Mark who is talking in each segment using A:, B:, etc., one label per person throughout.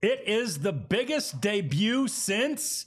A: It is the biggest debut since...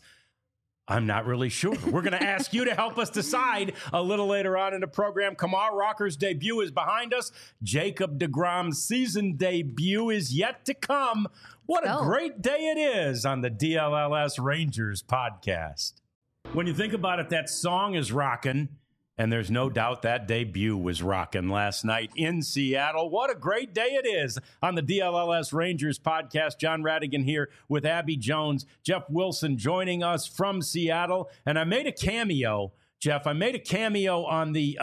A: I'm not really sure. We're going to ask you to help us decide a little later on in the program. Kumar Rocker's debut is behind us. Jacob deGrom's season debut is yet to come. What a great day it is on the DLLS Rangers podcast. When you think about it, that song is rocking, and there's no doubt that debut was rocking last night in Seattle. What a great day it is on the DLLS Rangers podcast. John Radigan here with Abby Jones. Jeff Wilson joining us from Seattle. And I made a cameo, Jeff. I made a cameo on the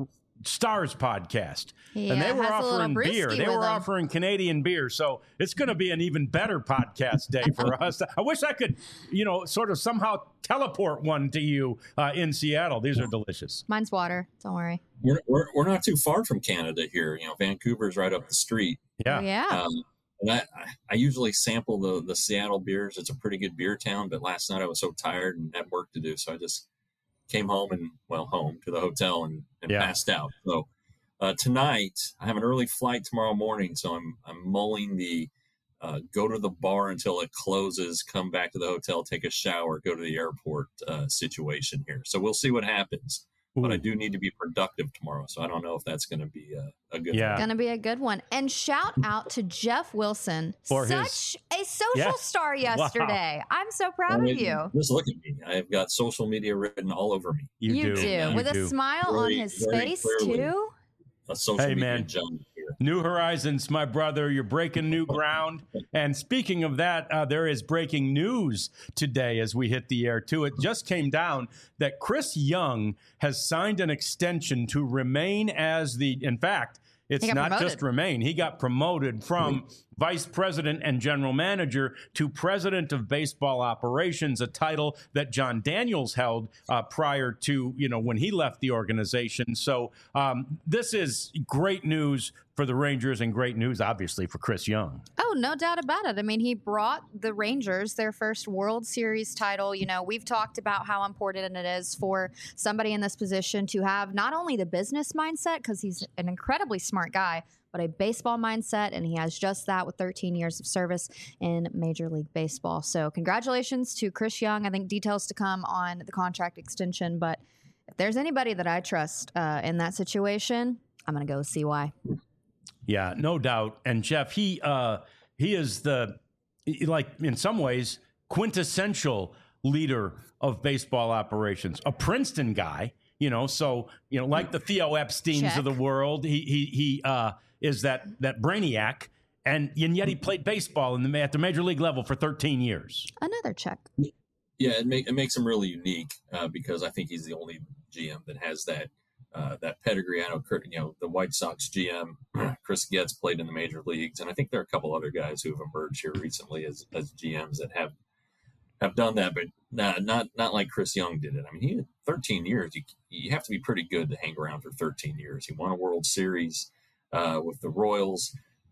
A: Stars podcast.
B: Yeah,
A: and they were offering beer. They were
B: them.
A: offering Canadian beer. So it's going to be an even better podcast day for us. I wish I could, sort of somehow teleport one to you in Seattle. These are delicious.
B: Mine's water. Don't worry.
C: We're not too far from Canada here. Vancouver's right up the street.
A: Yeah.
B: Oh, yeah.
C: And I usually sample the Seattle beers. It's a pretty good beer town. But last night I was so tired and had work to do. So I just came home to the hotel and passed out. So tonight I have an early flight tomorrow morning. So I'm mulling the go to the bar until it closes, come back to the hotel, take a shower, go to the airport situation here. So we'll see what happens. Ooh. But I do need to be productive tomorrow. So I don't know if that's going to be a good one.
B: Going to be a good one. And shout out to Jeff Wilson, such a social star yesterday. Wow. I'm so proud of you.
C: Just look at me. I've got social media written all over me.
B: You do. With a smile on his face, too.
C: A social media junkie.
A: New horizons, my brother. You're breaking new ground. And speaking of that, there is breaking news today as we hit the air, too. It just came down that Chris Young has signed an extension to remain as in fact, it's not promoted. Just remain. He got promoted from vice president and general manager to president of baseball operations, a title that John Daniels held prior to, when he left the organization. So this is great news for the Rangers and great news, obviously, for Chris Young.
B: Oh, no doubt about it. I mean, he brought the Rangers their first World Series title. We've talked about how important it is for somebody in this position to have not only the business mindset, because he's an incredibly smart guy, but a baseball mindset, and he has just that with 13 years of service in Major League Baseball. So congratulations to Chris Young. I think details to come on the contract extension, but if there's anybody that I trust in that situation, I'm going to go with CY.
A: Yeah, no doubt. And Jeff, he is in some ways, quintessential leader of baseball operations, a Princeton guy, like the Theo Epsteins of the world. He is that brainiac, and yet he played baseball at the major league level for 13 years.
B: Another check.
C: Yeah, it makes him really unique because I think he's the only GM that has that pedigree. I know, the White Sox GM, Chris Getz, played in the major leagues, and I think there are a couple other guys who have emerged here recently as GMs that have done that, but not like Chris Young did it. I mean, he had 13 years. You have to be pretty good to hang around for 13 years. He won a World Series with the Royals.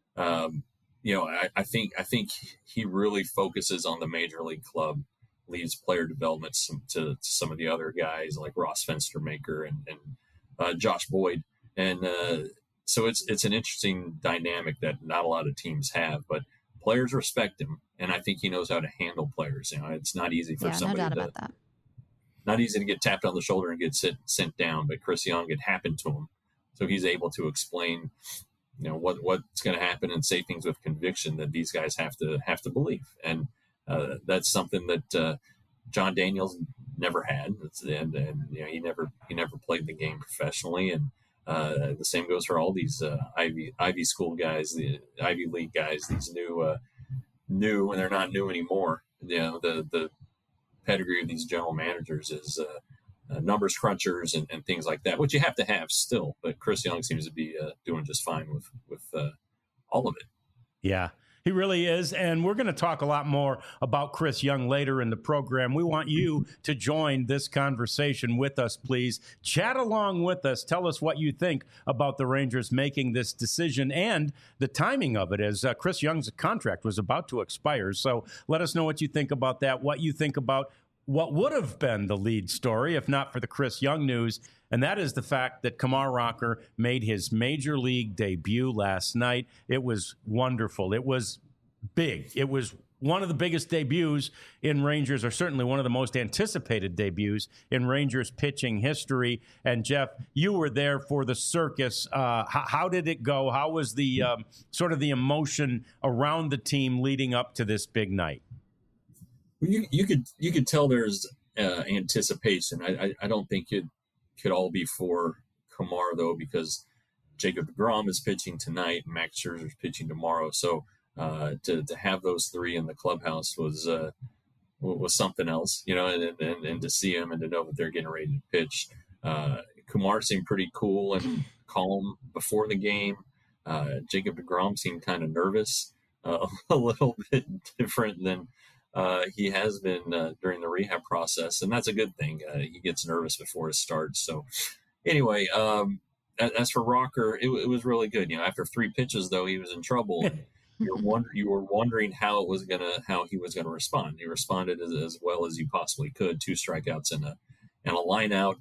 C: I think he really focuses on the major league club, leaves player development to some of the other guys like Ross Fenstermaker and Josh Boyd. And so it's an interesting dynamic that not a lot of teams have, but players respect him. And I think he knows how to handle players. It's not easy for somebody
B: no doubt about that.
C: Not easy to get tapped on the shoulder and get sent down, but Chris Young, it happened to him. So he's able to explain, what's going to happen and say things with conviction that these guys have to believe. And that's something that John Daniels never had. And he never played the game professionally. And the same goes for all these Ivy School guys, the Ivy League guys, these new, and they're not new anymore. The pedigree of these general managers is numbers crunchers and things like that, which you have to have still. But Chris Young seems to be doing just fine with all of it.
A: Yeah. He really is. And we're going to talk a lot more about Chris Young later in the program. We want you to join this conversation with us, please. Chat along with us. Tell us what you think about the Rangers making this decision and the timing of it, as Chris Young's contract was about to expire. So let us know what you think about that, what you think about what would have been the lead story if not for the Chris Young news, and that is the fact that Kumar Rocker made his major league debut last night. It was wonderful. It was big. It was one of the biggest debuts in Rangers, or certainly one of the most anticipated debuts in Rangers pitching history. And Jeff, you were there for the circus. How did it go? How was the sort of the emotion around the team leading up to this big night?
C: You could tell there's anticipation. I don't think it could all be for Kumar though, because Jacob deGrom is pitching tonight, and Max Scherzer is pitching tomorrow. So to have those three in the clubhouse was something else, you know, and to see them and to know that they're getting ready to pitch. Kumar seemed pretty cool and calm before the game. Jacob deGrom seemed kind of nervous, a little bit different than he has been during the rehab process, and that's a good thing. He gets nervous before it starts. So anyway, as for Rocker, it was really good. You know, after 3 pitches, though, he was in trouble. You were wondering how he was gonna respond. He responded as well as you possibly could. 2 strikeouts and a line out.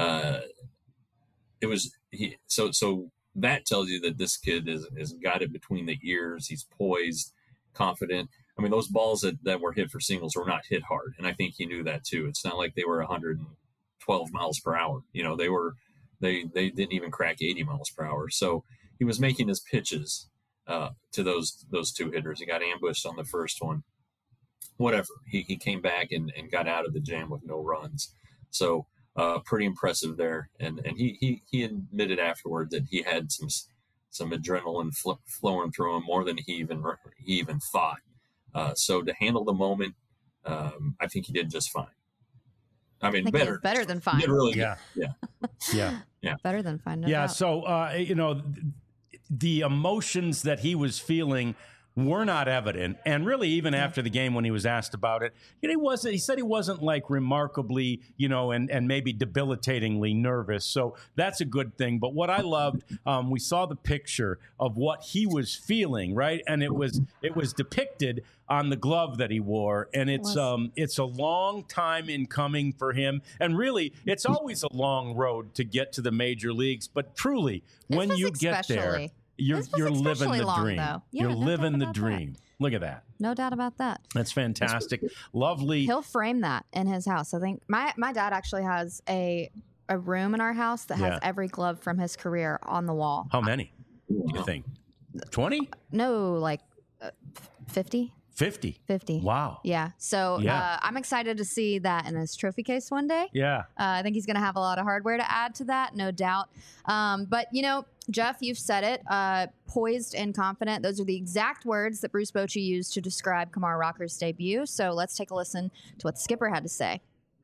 C: So that tells you that this kid is got it between the ears. He's poised, confident. I mean, those balls that were hit for singles were not hit hard, and I think he knew that too. It's not like they were 112 miles per hour. You know, they didn't even crack 80 miles per hour. So he was making his pitches to those 2 hitters. He got ambushed on the first one. Whatever. He came back and got out of the jam with no runs. So pretty impressive there. And he admitted afterward that he had some adrenaline flowing through him more than he even thought. So to handle the moment, I think he did just fine. I mean, better
B: than fine.
C: Really,
A: yeah.
B: Better than fine. No
A: yeah.
B: doubt.
A: So you know, the emotions that he was feeling were not evident, and really, even after the game, when he was asked about it, you know, he said he wasn't like remarkably, you know, and maybe debilitatingly nervous. So that's a good thing. But what I loved, we saw the picture of what he was feeling, right, and it was depicted on the glove that he wore, and it's a long time in coming for him, and really, it's always a long road to get to the major leagues. But truly, when you get there, you're living the dream.
B: Yeah,
A: you're living the dream.
B: That.
A: Look at that.
B: No doubt about that.
A: That's fantastic. Lovely.
B: He'll frame that in his house. I think my dad actually has a room in our house that has every glove from his career on the wall.
A: How many do you think? 20?
B: No, like 50.
A: 50. Wow.
B: Yeah. So I'm excited to see that in his trophy case one day.
A: Yeah.
B: I think he's going to have a lot of hardware to add to that, no doubt. But, you know, Jeff, you've said it, poised and confident. Those are the exact words that Bruce Bochy used to describe Kumar Rocker's debut. So let's take a listen to what the skipper had to say.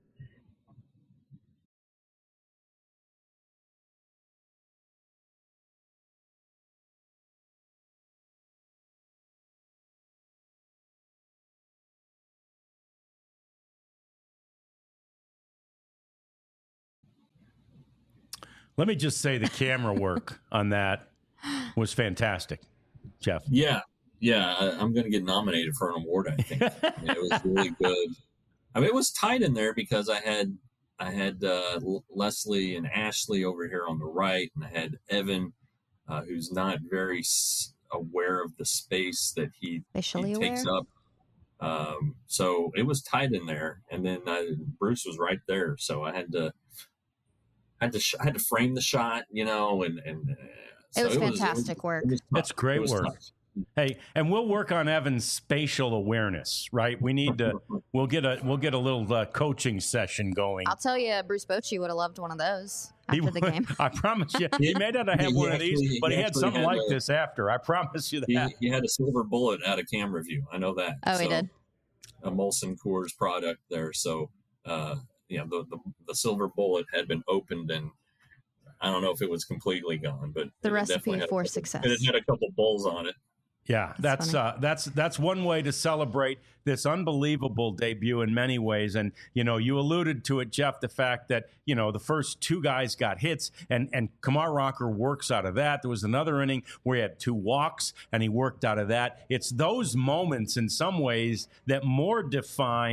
A: Let me just say the camera work on that was fantastic, Jeff.
C: Yeah. I'm going to get nominated for an award, I think. I mean, it was really good. I mean, it was tight in there because I had Leslie and Ashley over here on the right, and I had Evan, who's not very aware of the space that he takes up. So it was tight in there, and then Bruce was right there, so I had to frame the shot, you know, and
B: so it was fantastic work.
A: That's great work. Tough. Hey, and we'll work on Evan's spatial awareness, right? We need to. We'll get a little coaching session going.
B: I'll tell you, Bruce Bochy would have loved one of those after the game.
A: I promise you, he may not have had one of these, but he had something like this after. I promise you that.
C: He had a silver bullet out of camera view. I know that.
B: Oh, he did.
C: A Molson Coors product there, so. The silver bullet had been opened, and I don't know if it was completely gone, but
B: the recipe for success.
C: It had a couple bowls on it.
A: Yeah, that's one way to celebrate this unbelievable debut in many ways. And, you know, you alluded to it, Jeff, the fact that, you know, the first 2 guys got hits and Kumar Rocker works out of that. There was another inning where he had 2 walks and he worked out of that. It's those moments in some ways that more define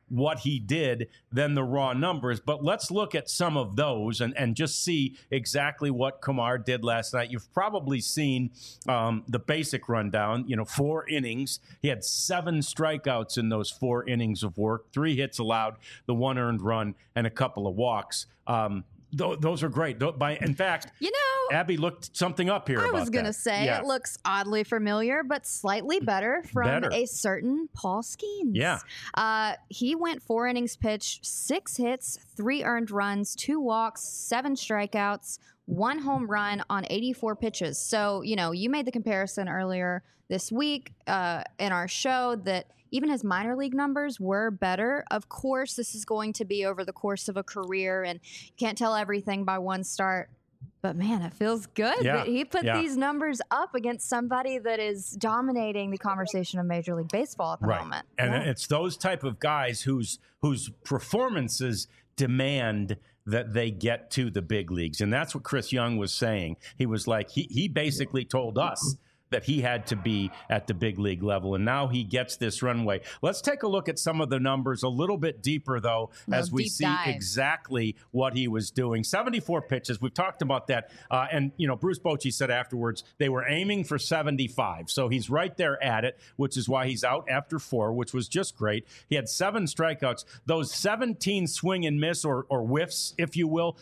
A: what he did than the raw numbers. But let's look at some of those and just see exactly what Kumar did last night. You've probably seen the basic rundown, 4 innings. He had 7 strikeouts in those 4 innings of work, 3 hits allowed, the 1 earned run, and a couple of walks. Those are great. In fact, Abby looked something up here.
B: I was going to say it looks oddly familiar, but slightly better from a certain Paul Skeens.
A: Yeah.
B: He went 4 innings pitched, 6 hits, 3 earned runs, 2 walks, 7 strikeouts, 1 home run on 84 pitches. So, you made the comparison earlier this week in our show that even his minor league numbers were better. Of course, this is going to be over the course of a career, and you can't tell everything by one start. But, man, it feels good that he put these numbers up against somebody that is dominating the conversation of Major League Baseball at the moment.
A: And it's those type of guys whose performances demand that they get to the big leagues. And that's what Chris Young was saying. He was like, he basically told us that he had to be at the big league level, and now he gets this runway. Let's take a look at some of the numbers a little bit deeper, though, as we see exactly what he was doing. 74 pitches. We've talked about that. And, Bruce Bochy said afterwards they were aiming for 75. So he's right there at it, which is why he's out after 4, which was just great. He had 7 strikeouts. Those 17 swing and miss or whiffs, if you will,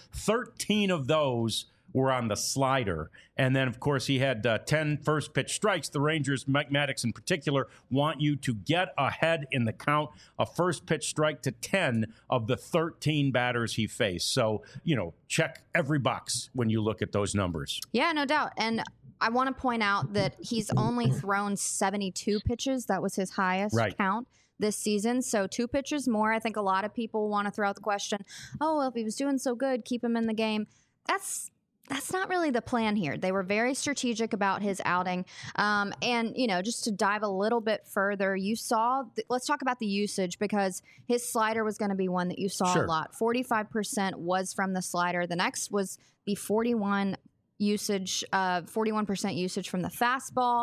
A: 13 of those were on the slider. And then, of course, he had 10 first pitch strikes. The Rangers, Mike Maddox in particular, want you to get ahead in the count, a first pitch strike to 10 of the 13 batters he faced. So, check every box when you look at those numbers.
B: Yeah, no doubt. And I want to point out that he's only thrown 72 pitches. That was his highest count this season. So 2 pitches more. I think a lot of people want to throw out the question, if he was doing so good, keep him in the game. That's not really the plan here. They were very strategic about his outing. And, just to dive a little bit further, let's talk about the usage, because his slider was going to be one that you saw a lot. 45% was from the slider. The next was the 41% usage from the fastball.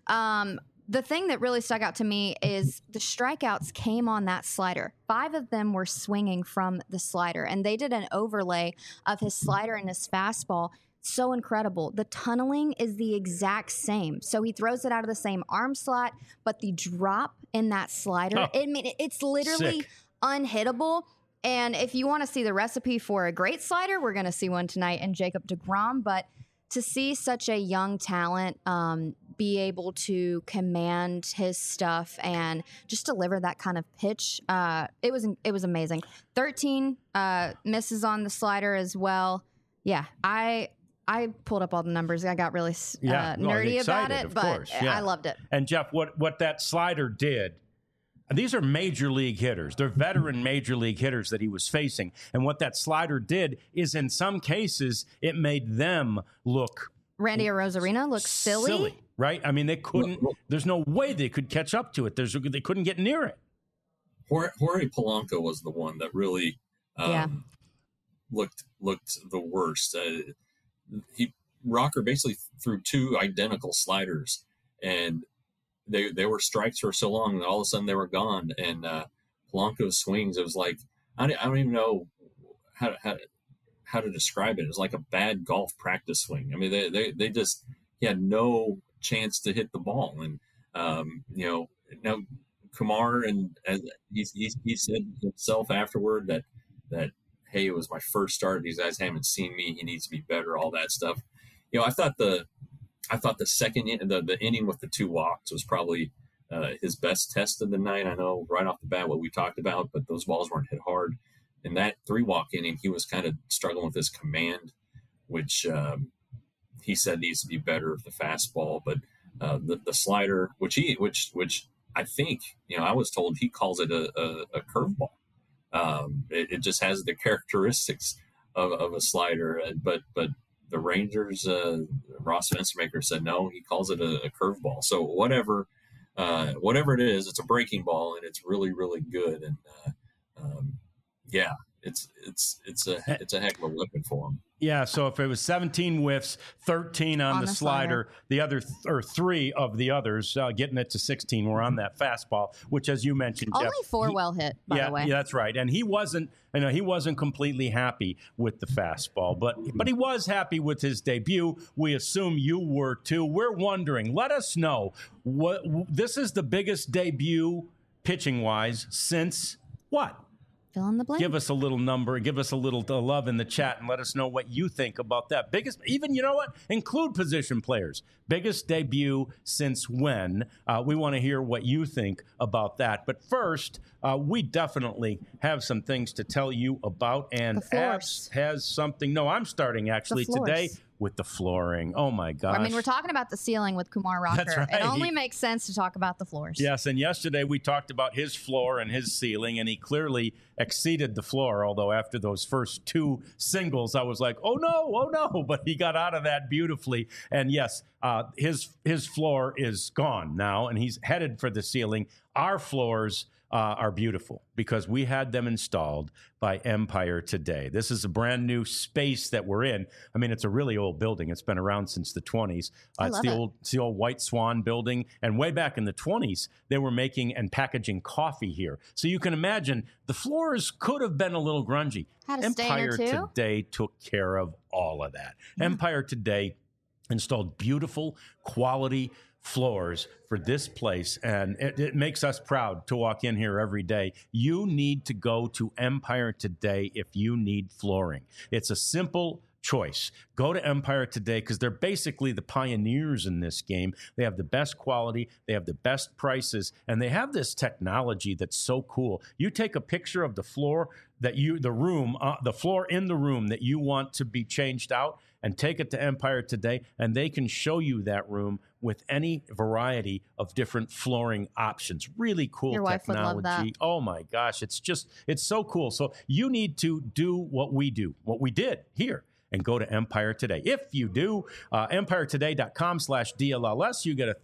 B: The thing that really stuck out to me is the strikeouts came on that slider. 5 of them were swinging from the slider, and they did an overlay of his slider and his fastball. So incredible. The tunneling is the exact same. So he throws it out of the same arm slot, but the drop in that slider, it's literally unhittable. And if you want to see the recipe for a great slider, we're going to see one tonight in Jacob deGrom. But to see such a young talent be able to command his stuff and just deliver that kind of pitch, it was amazing. 13 misses on the slider as well. Yeah, I pulled up all the numbers. I got really nerdy about it, but I loved it.
A: And Jeff, what that slider did, these are major league hitters. They're veteran major league hitters that he was facing. And what that slider did is, in some cases, it made them look...
B: Randy Arozarena looks silly.
A: Right? I mean, they couldn't... There's no way they could catch up to it. They couldn't get near it.
C: Jorge Polanco was the one that really looked the worst. Rocker basically threw 2 identical sliders, and they were strikes for so long, and all of a sudden they were gone. And Polanco's swings, it was like, I don't even know how to describe it. It was like a bad golf practice swing. I mean, they just, he had no chance to hit the ball. And now Kumar, and he said himself afterward that hey, it was my first start. These guys haven't seen me. He needs to be better. All that stuff. I thought the second the inning with the 2 walks was probably his best test of the night. I know right off the bat what we talked about, but those balls weren't hit hard. In that 3-walk inning, he was kind of struggling with his command, which he said needs to be better with the fastball. But the slider, which I think, I was told he calls it a curveball. It just has the characteristics of a slider, but the Rangers, Ross Fenstermaker said no, he calls it a curveball. So whatever it is, it's a breaking ball, and it's really, really good. And it's a heck of a weapon for him.
A: Yeah, so if it was 17 whiffs, 13 on the slider, the other or 3 of the others getting it to 16 were on that fastball, which, as you mentioned,
B: only
A: Jeff,
B: 4 well hit, by the way.
A: Yeah, that's right. And he wasn't completely happy with the fastball, but he was happy with his debut. We assume you were too. We're wondering. Let us know what this is the biggest debut pitching wise since what?
B: Fill in the blank.
A: Give us a little number, give us a little love in the chat, and let us know what you think about that. Biggest, even, you know what? Include position players. Biggest debut since when? We want to hear what you think about that. But first, we definitely have some things to tell you about. And Abs has something. No, I'm starting actually today with the flooring. Oh, my gosh.
B: I mean, we're talking about the ceiling with Kumar Rocker.
A: That's right.
B: It only makes sense to talk about the floors.
A: Yes, and yesterday we talked about his floor and his ceiling, and he clearly exceeded the floor, although after those first 2 singles, I was like, oh, no, but he got out of that beautifully. And yes, his floor is gone now, and he's headed for the ceiling. Our floors are beautiful because we had them installed by Empire Today. This is a brand new space that we're in. I mean, it's a really old building. It's been around since the 20s. It's the old White Swan building. And way back in the 20s, they were making and packaging coffee here. So you can imagine the floors could have been a little grungy.
B: Had a stain or two.
A: Empire Today took care of all of that. Yeah. Empire Today installed beautiful quality floors for this place, and it makes us proud to walk in here every day. You need to go to Empire Today if you need flooring. It's a simple choice. Go to Empire Today because they're basically the pioneers in this game. They have the best quality, they have the best prices, and they have this technology that's so cool. You take a picture of the floor the floor in the room that you want to be changed out, and take it to Empire Today, and they can show you that room with any variety of different flooring options. Really cool
B: Your wife
A: technology.
B: Would love that.
A: Oh my gosh, it's so cool. So you need to do what we did here, and go to Empire Today. If you do, EmpireToday.com/DLLS, you get a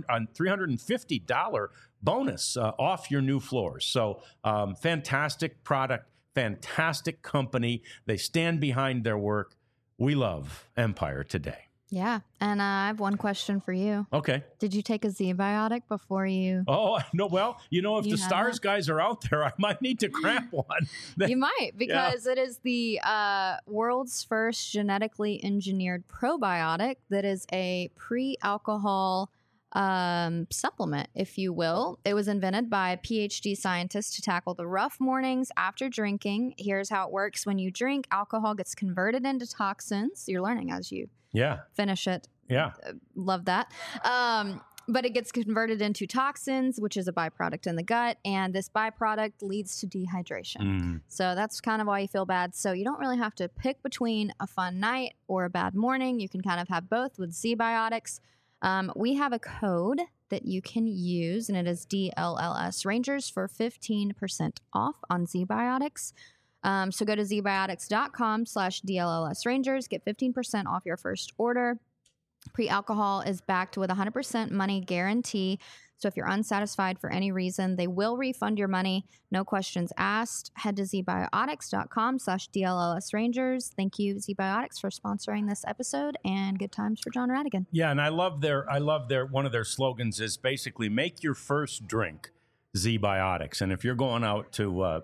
A: $350 bonus off your new floors. So fantastic product, fantastic company. They stand behind their work. We love Empire Today.
B: Yeah. And I have one question for you.
A: Okay.
B: Did you take a Z-Biotic before you?
A: Oh, no. Well, if the Stars guys are out there, I might need to cramp one.
B: You might, because it is the world's first genetically engineered probiotic that is a pre-alcohol supplement, if you will. It was invented by a PhD scientist to tackle the rough mornings after drinking. Here's how it works. When you drink, alcohol gets converted into toxins. You're learning as you finish it.
A: Yeah.
B: Love that. But it gets converted into toxins, which is a byproduct in the gut. And this byproduct leads to dehydration. So that's kind of why you feel bad. So you don't really have to pick between a fun night or a bad morning. You can kind of have both with Z-Biotics. We have a code that you can use, and it is DLLS Rangers for 15% off on Z-Biotics. So go to zbiotics.com/DLLS Rangers. Get 15% off your first order. Pre-alcohol is backed with 100% money guarantee. So if you're unsatisfied for any reason, they will refund your money. No questions asked. Head to zbiotics.com/DLLS Rangers. Thank you, Z-Biotics, for sponsoring this episode, and good times for John Radigan.
A: Yeah, and I love their one of their slogans is basically make your first drink Z-Biotics. And if you're going out to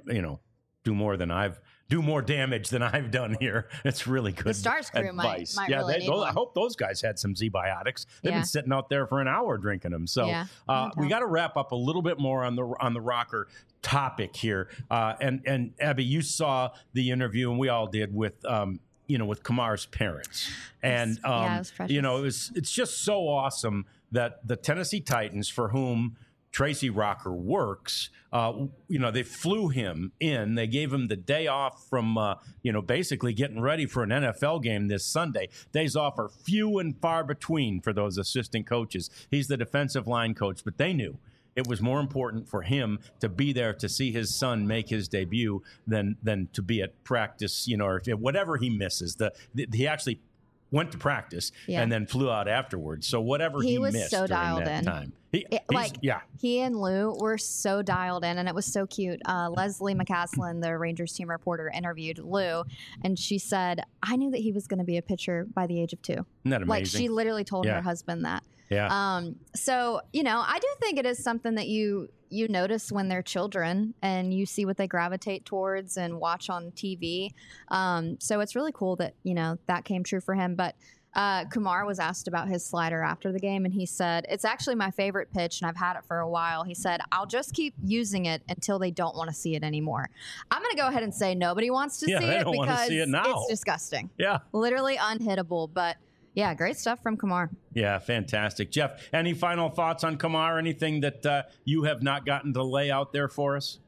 A: do more damage than I've done here, it's really good.
B: The Stars crew might really need one.
A: I hope those guys had some Z-Biotics. They've been sitting out there for an hour drinking them. So we got to wrap up a little bit more on the Rocker topic here. And Abby, you saw the interview, and we all did with with Kumar's parents, and
B: it was precious.
A: it's just so awesome that the Tennessee Titans, for whom Tracy Rocker works, they flew him in. They gave him the day off from, basically getting ready for an NFL game this Sunday. Days off are few and far between for those assistant coaches. He's the defensive line coach, but they knew it was more important for him to be there to see his son make his debut than to be at practice, or whatever he misses. He actually went to practice
B: Yeah.
A: and then flew out afterwards. So whatever he
B: was
A: missed
B: so
A: during
B: dialed
A: that
B: in.
A: time.
B: He and Lou were so dialed in, and it was so cute. Leslie McCaslin, the Rangers team reporter, interviewed Lou, and she said, I knew that he was going to be a pitcher by the age of 2.
A: Isn't that amazing?
B: Like, she literally told
A: Yeah.
B: her husband that.
A: Yeah.
B: So, I do think it is something that you notice when they're children and you see what they gravitate towards and watch on TV. So it's really cool that, that came true for him. But Kumar was asked about his slider after the game, and he said, it's actually my favorite pitch, and I've had it for a while. He said, I'll just keep using it until they don't want to see it anymore. I'm going to go ahead and say nobody wants to see
A: they
B: it
A: don't wanna
B: because
A: see it now.
B: it's disgusting.
A: Yeah.
B: Literally unhittable. But yeah, great stuff from Kumar.
A: Yeah, fantastic. Jeff, any final thoughts on Kumar? Anything that you have not gotten to lay out there for us?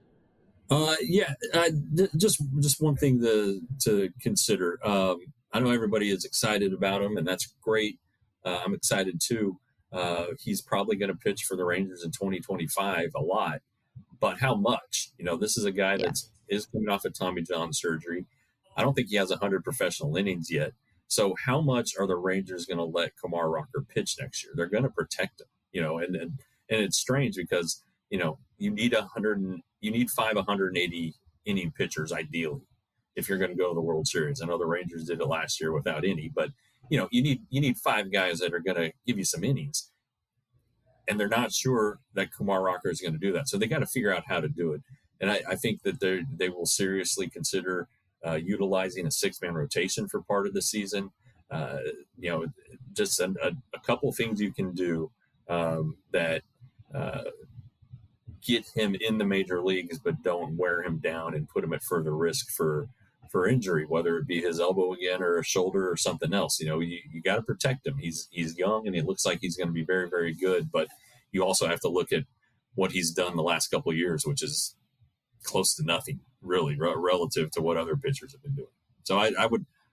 C: Just one thing to consider. I know everybody is excited about him, and that's great. I'm excited too. He's probably going to pitch for the Rangers in 2025 a lot, but how much? This is a guy that is coming off of Tommy John surgery. I don't think he has 100 professional innings yet. So how much are the Rangers going to let Kumar Rocker pitch next year? They're going to protect him, and it's strange because, you need 5 180 inning pitchers ideally if you're going to go to the World Series. I know the Rangers did it last year without any, but you need 5 guys that are going to give you some innings, and they're not sure that Kumar Rocker is going to do that. So they got to figure out how to do it. And I think that they will seriously consider utilizing a 6-man rotation for part of the season. Just a couple things you can do that get him in the major leagues, but don't wear him down and put him at further risk for injury, whether it be his elbow again or a shoulder or something else. You got to protect him. He's young and it looks like he's going to be very, very good, but you also have to look at what he's done the last couple of years, which is close to nothing really relative to what other pitchers have been doing. So I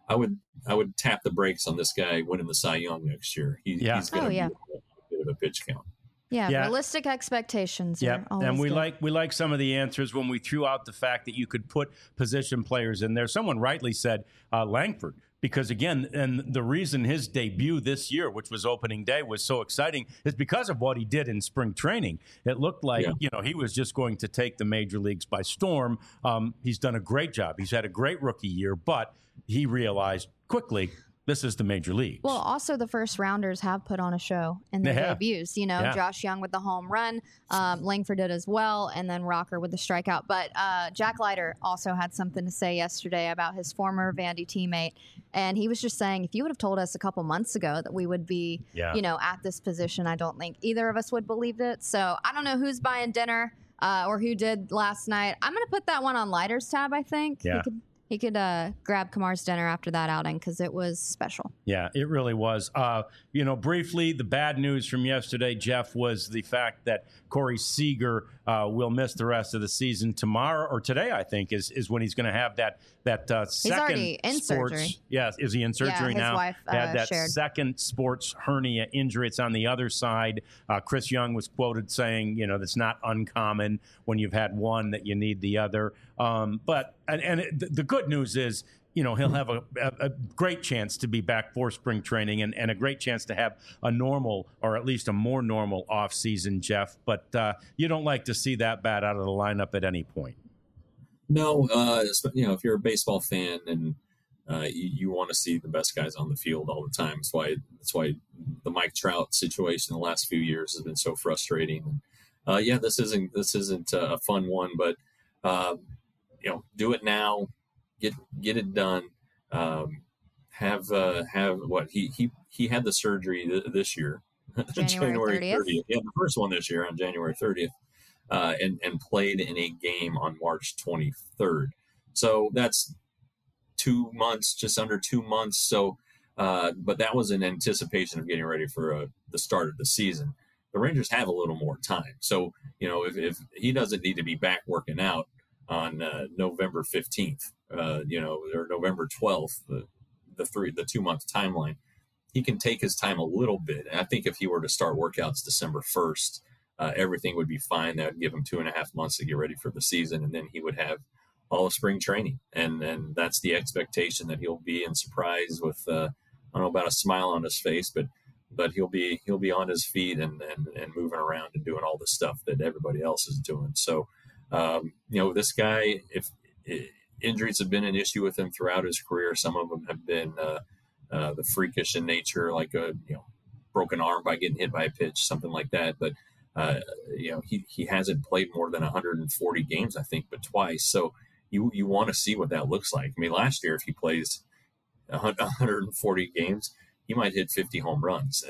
C: would tap the brakes on this guy winning the Cy Young next year. He's going to be a bit of a pitch count.
B: Yeah, realistic expectations.
A: Yeah, and we like some of the answers when we threw out the fact that you could put position players in there. Someone rightly said Langford, because again, and the reason his debut this year, which was opening day, was so exciting is because of what he did in spring training. It looked like he was just going to take the major leagues by storm. He's done a great job. He's had a great rookie year, but he realized quickly this is the major leagues.
B: Well, also the first rounders have put on a show in their debuts. Josh Young with the home run, Langford did as well, and then Rocker with the strikeout. But Jack Leiter also had something to say yesterday about his former Vandy teammate, and he was just saying, if you would have told us a couple months ago that we would be, at this position, I don't think either of us would believe it. So I don't know who's buying dinner or who did last night. I'm going to put that one on Leiter's tab, I think.
A: Yeah.
B: He could grab Kumar's dinner after that outing because it was special.
A: Yeah, it really was. Briefly, the bad news from yesterday, Jeff, was the fact that Corey Seager will miss the rest of the season. Tomorrow or today, I think, is when he's going to have that second.
B: He's already in surgery.
A: Yeah, is he in surgery now?
B: His wife
A: had that
B: shared.
A: second sports hernia injury. It's on the other side. Chris Young was quoted saying, that's not uncommon when you've had one that you need the other. But the good news is, he'll have a great chance to be back for spring training and a great chance to have a normal or at least a more normal off season, Jeff. But you don't like to see that bat out of the lineup at any point.
C: No, if you're a baseball fan and you want to see the best guys on the field all the time. That's why the Mike Trout situation the last few years has been so frustrating. This isn't a fun one, but do it now, get it done. Have what he had the surgery this year,
B: January 30th.
C: He had the first one this year on January 30th, and played in a game on March 23rd. So that's 2 months, just under 2 months. So, but that was in anticipation of getting ready for the start of the season. The Rangers have a little more time. So, if he doesn't need to be back working out on November 15th, or November 12th, the 2 month timeline, he can take his time a little bit. And I think if he were to start workouts December 1st, everything would be fine. That would give him 2.5 months to get ready for the season. And then he would have all of spring training. And that's the expectation, that he'll be in surprise with don't know about a smile on his face, but he'll be on his feet and moving around and doing all the stuff that everybody else is doing. So, this guy, if injuries have been an issue with him throughout his career, some of them have been the freakish in nature, like a broken arm by getting hit by a pitch, something like that. But he hasn't played more than 140 games, I think, but twice. So you want to see what that looks like. I mean, last year, if he plays 140 games, he might hit 50 home runs.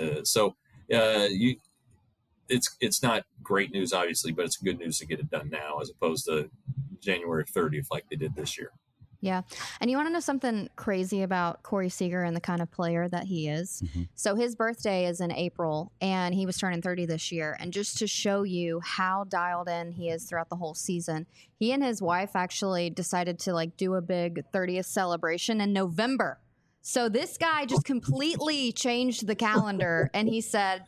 C: It's not great news, obviously, but it's good news to get it done now as opposed to January 30th like they did this year.
B: Yeah. And you want to know something crazy about Corey Seager and the kind of player that he is? Mm-hmm. So his birthday is in April, and he was turning 30 this year. And just to show you how dialed in he is throughout the whole season, he and his wife actually decided to do a big 30th celebration in November. So this guy just completely changed the calendar, and he said,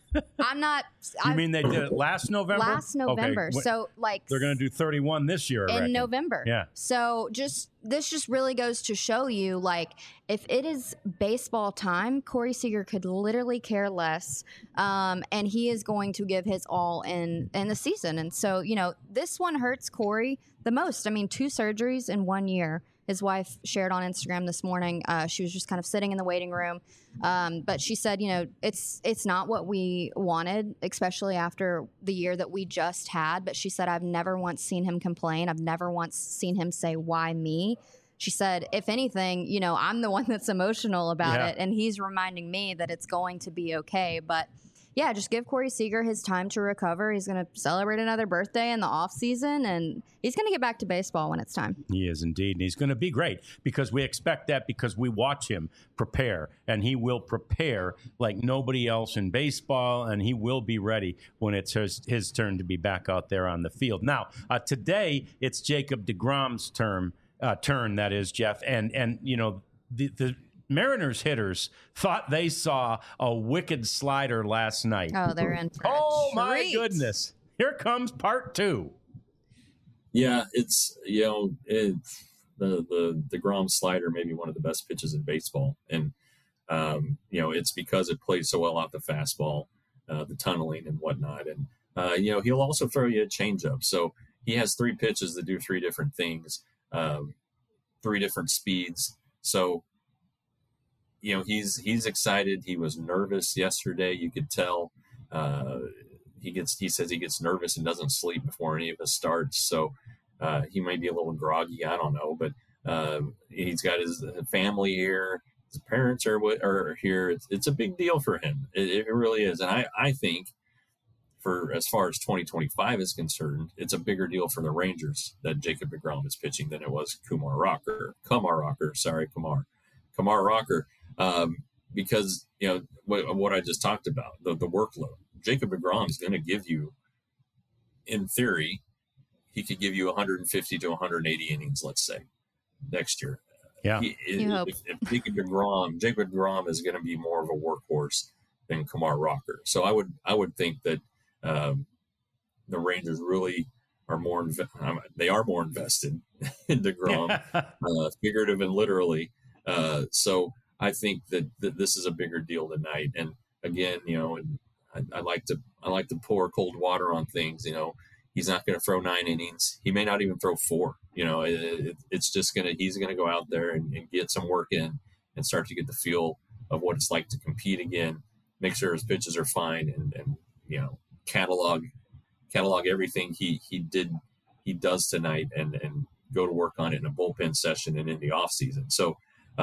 A: You mean they did it last November?
B: Last November. Okay. So
A: they're going to do 31 this year, I reckon.
B: November.
A: Yeah.
B: So this just really goes to show you, if it is baseball time, Corey Seager could literally care less, and he is going to give his all in the season. And so, this one hurts Corey the most. I mean, 2 surgeries in 1 year. His wife shared on Instagram this morning. She was just kind of sitting in the waiting room. But she said, it's not what we wanted, especially after the year that we just had. But she said, I've never once seen him complain. I've never once seen him say, why me? She said, if anything, I'm the one that's emotional about it. And he's reminding me that it's going to be okay. But yeah, just give Corey Seager his time to recover. He's going to celebrate another birthday in the off season, and he's going to get back to baseball when it's time.
A: He is indeed, and he's going to be great because we expect that because we watch him prepare, and he will prepare like nobody else in baseball, and he will be ready when it's his turn to be back out there on the field. Now, today it's Jacob deGrom's turn, that is, Jeff, and the Mariners hitters thought they saw a wicked slider last night.
B: Oh, they're in for
A: Oh, my goodness. Here comes part 2.
C: Yeah, it's, the DeGrom slider may be one of the best pitches in baseball. And, it's because it plays so well off the fastball, the tunneling and whatnot. And, he'll also throw you a changeup. So he has 3 pitches that do 3 different things, 3 different speeds. So, he's excited. He was nervous yesterday. You could tell. He says he gets nervous and doesn't sleep before any of his starts. So he might be a little groggy. I don't know, but he's got his family here. His parents are here. It's a big deal for him. It really is. And I think for as far as 2025 is concerned, it's a bigger deal for the Rangers that Jacob deGrom is pitching than it was Kumar Rocker. Because what I just talked about, the workload. Jacob deGrom is going to give you, in theory, he could give you 150 to 180 innings, let's say, next year.
A: Yeah.
C: If Jacob deGrom is going to be more of a workhorse than Kumar Rocker. So I would think that the Rangers really are more invested in deGrom, figurative and literally. So I think that this is a bigger deal tonight. And again, and I like to pour cold water on things. He's not going to throw 9 innings. He may not even throw 4. It's just he's going to go out there and get some work in and start to get the feel of what it's like to compete again. Make sure his pitches are fine and catalog everything he does tonight and go to work on it in a bullpen session and in the off season. So.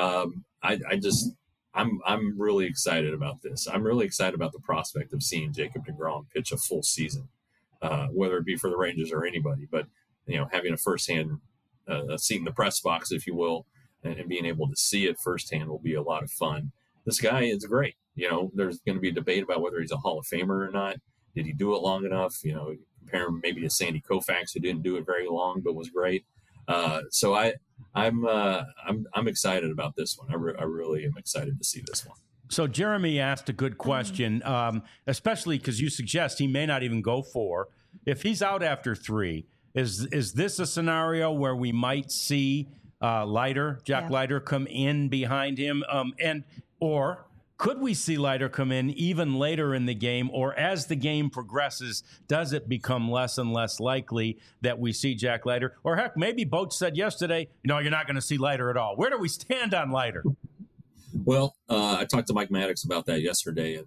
C: I'm really excited about this. I'm really excited about the prospect of seeing Jacob deGrom pitch a full season, whether it be for the Rangers or anybody. But having a firsthand seat in the press box, if you will, and being able to see it firsthand will be a lot of fun. This guy is great. There's going to be a debate about whether he's a Hall of Famer or not. Did he do it long enough? Compare him maybe to Sandy Koufax, who didn't do it very long but was great. So I'm excited about this one. I really am excited to see this one.
A: So Jeremy asked a good question, especially because you suggest he may not even go 4. If he's out after 3, is this a scenario where we might see Jack Leiter come in behind him, or Could we see Leiter come in even later in the game, or as the game progresses, does it become less and less likely that we see Jack Leiter? Or heck, maybe Boach said yesterday, no, you're not going to see Leiter at all. Where do we stand on Leiter?
C: Well, I talked to Mike Maddox about that yesterday.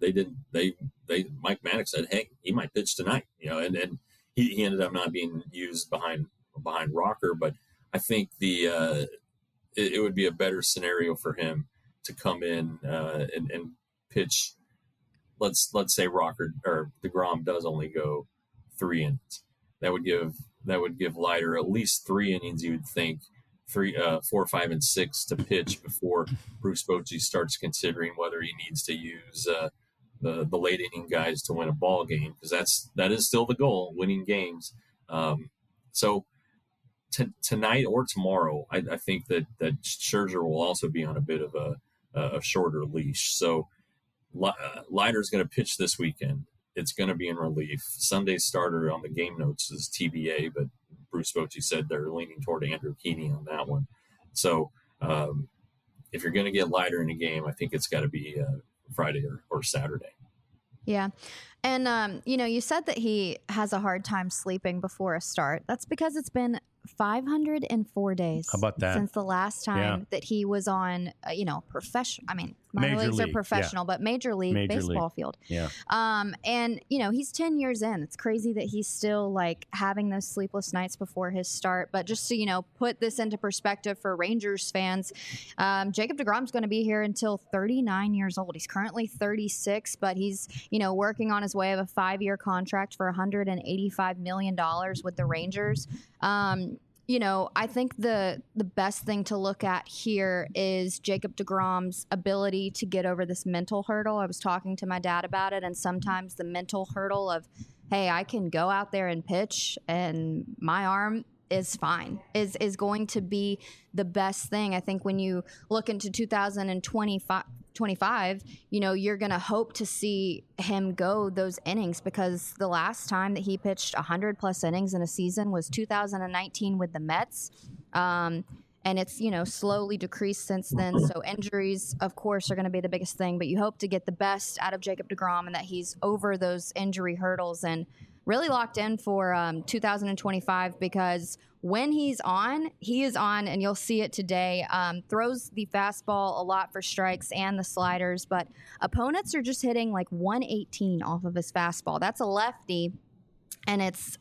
C: Mike Maddox said, hey, he might pitch tonight, and he ended up not being used behind Rocker, but I think it would be a better scenario for him to come in and pitch. Let's say Rocker or DeGrom does only go 3 innings. That would give Leiter at least 3 innings. You would think 4, 5, and 6 to pitch before Bruce Bochy starts considering whether he needs to use the late inning guys to win a ball game, because that is still the goal, winning games. So tonight or tomorrow, I think that Scherzer will also be on a bit of a shorter leash. So Leiter's going to pitch this weekend. It's going to be in relief. Sunday's starter on the game notes is TBA, but Bruce Bochy said they're leaning toward Andrew Keeney on that one. So if you're going to get Leiter in a game, I think it's got to be Friday or Saturday.
B: Yeah. And, you said that he has a hard time sleeping before a start. That's because it's been 504 days.
A: How about that?
B: Since the last time that he was on, professional. I mean, minor leagues are professional, but major league baseball field.
A: Yeah.
B: And he's 10 years in. It's crazy that he's still like having those sleepless nights before his start. But just to put this into perspective for Rangers fans, Jacob deGrom's going to be here until 39 years old. He's currently 36, but he's working on his way of a 5-year contract for $185 million with the Rangers. I think the best thing to look at here is Jacob deGrom's ability to get over this mental hurdle. I was talking to my dad about it, and sometimes the mental hurdle of, hey, I can go out there and pitch and my arm is fine, is going to be the best thing. I think when you look into 2025, you're going to hope to see him go those innings, because the last time that he pitched 100+ innings in a season was 2019 with the Mets. And it's, slowly decreased since then. So injuries, of course, are going to be the biggest thing, but you hope to get the best out of Jacob deGrom and that he's over those injury hurdles and really locked in for 2025, because when he is on, and you'll see it today. Throws the fastball a lot for strikes and the sliders, but opponents are just hitting like 118 off of his fastball. That's a lefty, and it's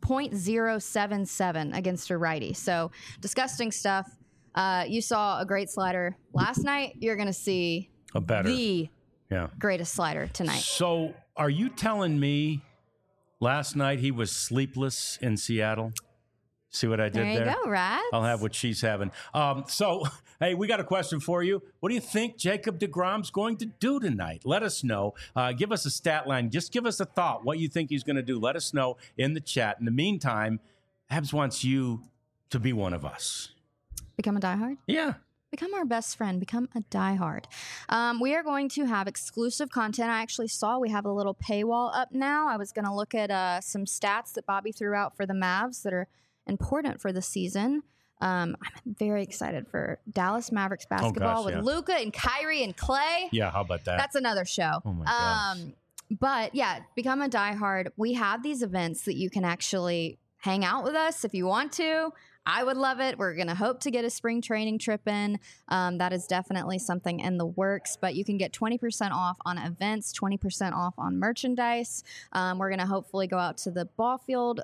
B: 0.077 against a righty. So disgusting stuff. You saw a great slider last night. You're going to see the greatest slider tonight. So
A: are you telling me last night he was sleepless in Seattle? See what I did there?
B: There you go, Rats.
A: I'll have what she's having. So, hey, we got a question for you. What do you think Jacob deGrom's going to do tonight? Let us know. Give us a stat line. Just give us a thought, what you think he's going to do. Let us know in the chat. In the meantime, Habs wants you to be one of us.
B: Become a diehard?
A: Yeah.
B: Become our best friend. Become a diehard. We are going to have exclusive content. I actually saw we have a little paywall up now. I was going to look at some stats that Bobby threw out for the Mavs that are important for the season. I'm very excited for Dallas Mavericks basketball with Luka and Kyrie and Clay.
A: Yeah, how about that?
B: That's another show.
A: Oh my gosh.
B: But yeah, become a diehard. We have these events that you can actually hang out with us if you want to. I would love it. We're going to hope to get a spring training trip in. That is definitely something in the works, but you can get 20% off on events, 20% off on merchandise. We're going to hopefully go out to the ball field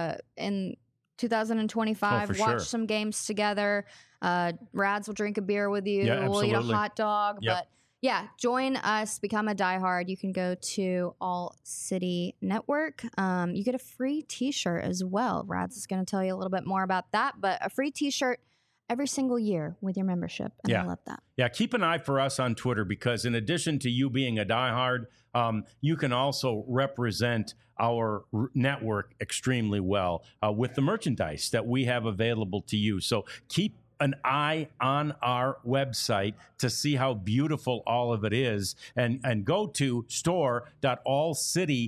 B: in 2025, watch some games together. Rads will drink a beer with you.
A: Yeah,
B: we'll eat a hot dog.
A: Yep.
B: But yeah, join us, become a diehard. You can go to All City Network. You get a free t-shirt as well. Rads is going to tell you a little bit more about that, but a free t-shirt every single year with your membership. And I love that.
A: Yeah, keep an eye for us on Twitter, because in addition to you being a diehard, you can also represent our network extremely well with the merchandise that we have available to you. So keep an eye on our website to see how beautiful all of it is, and go to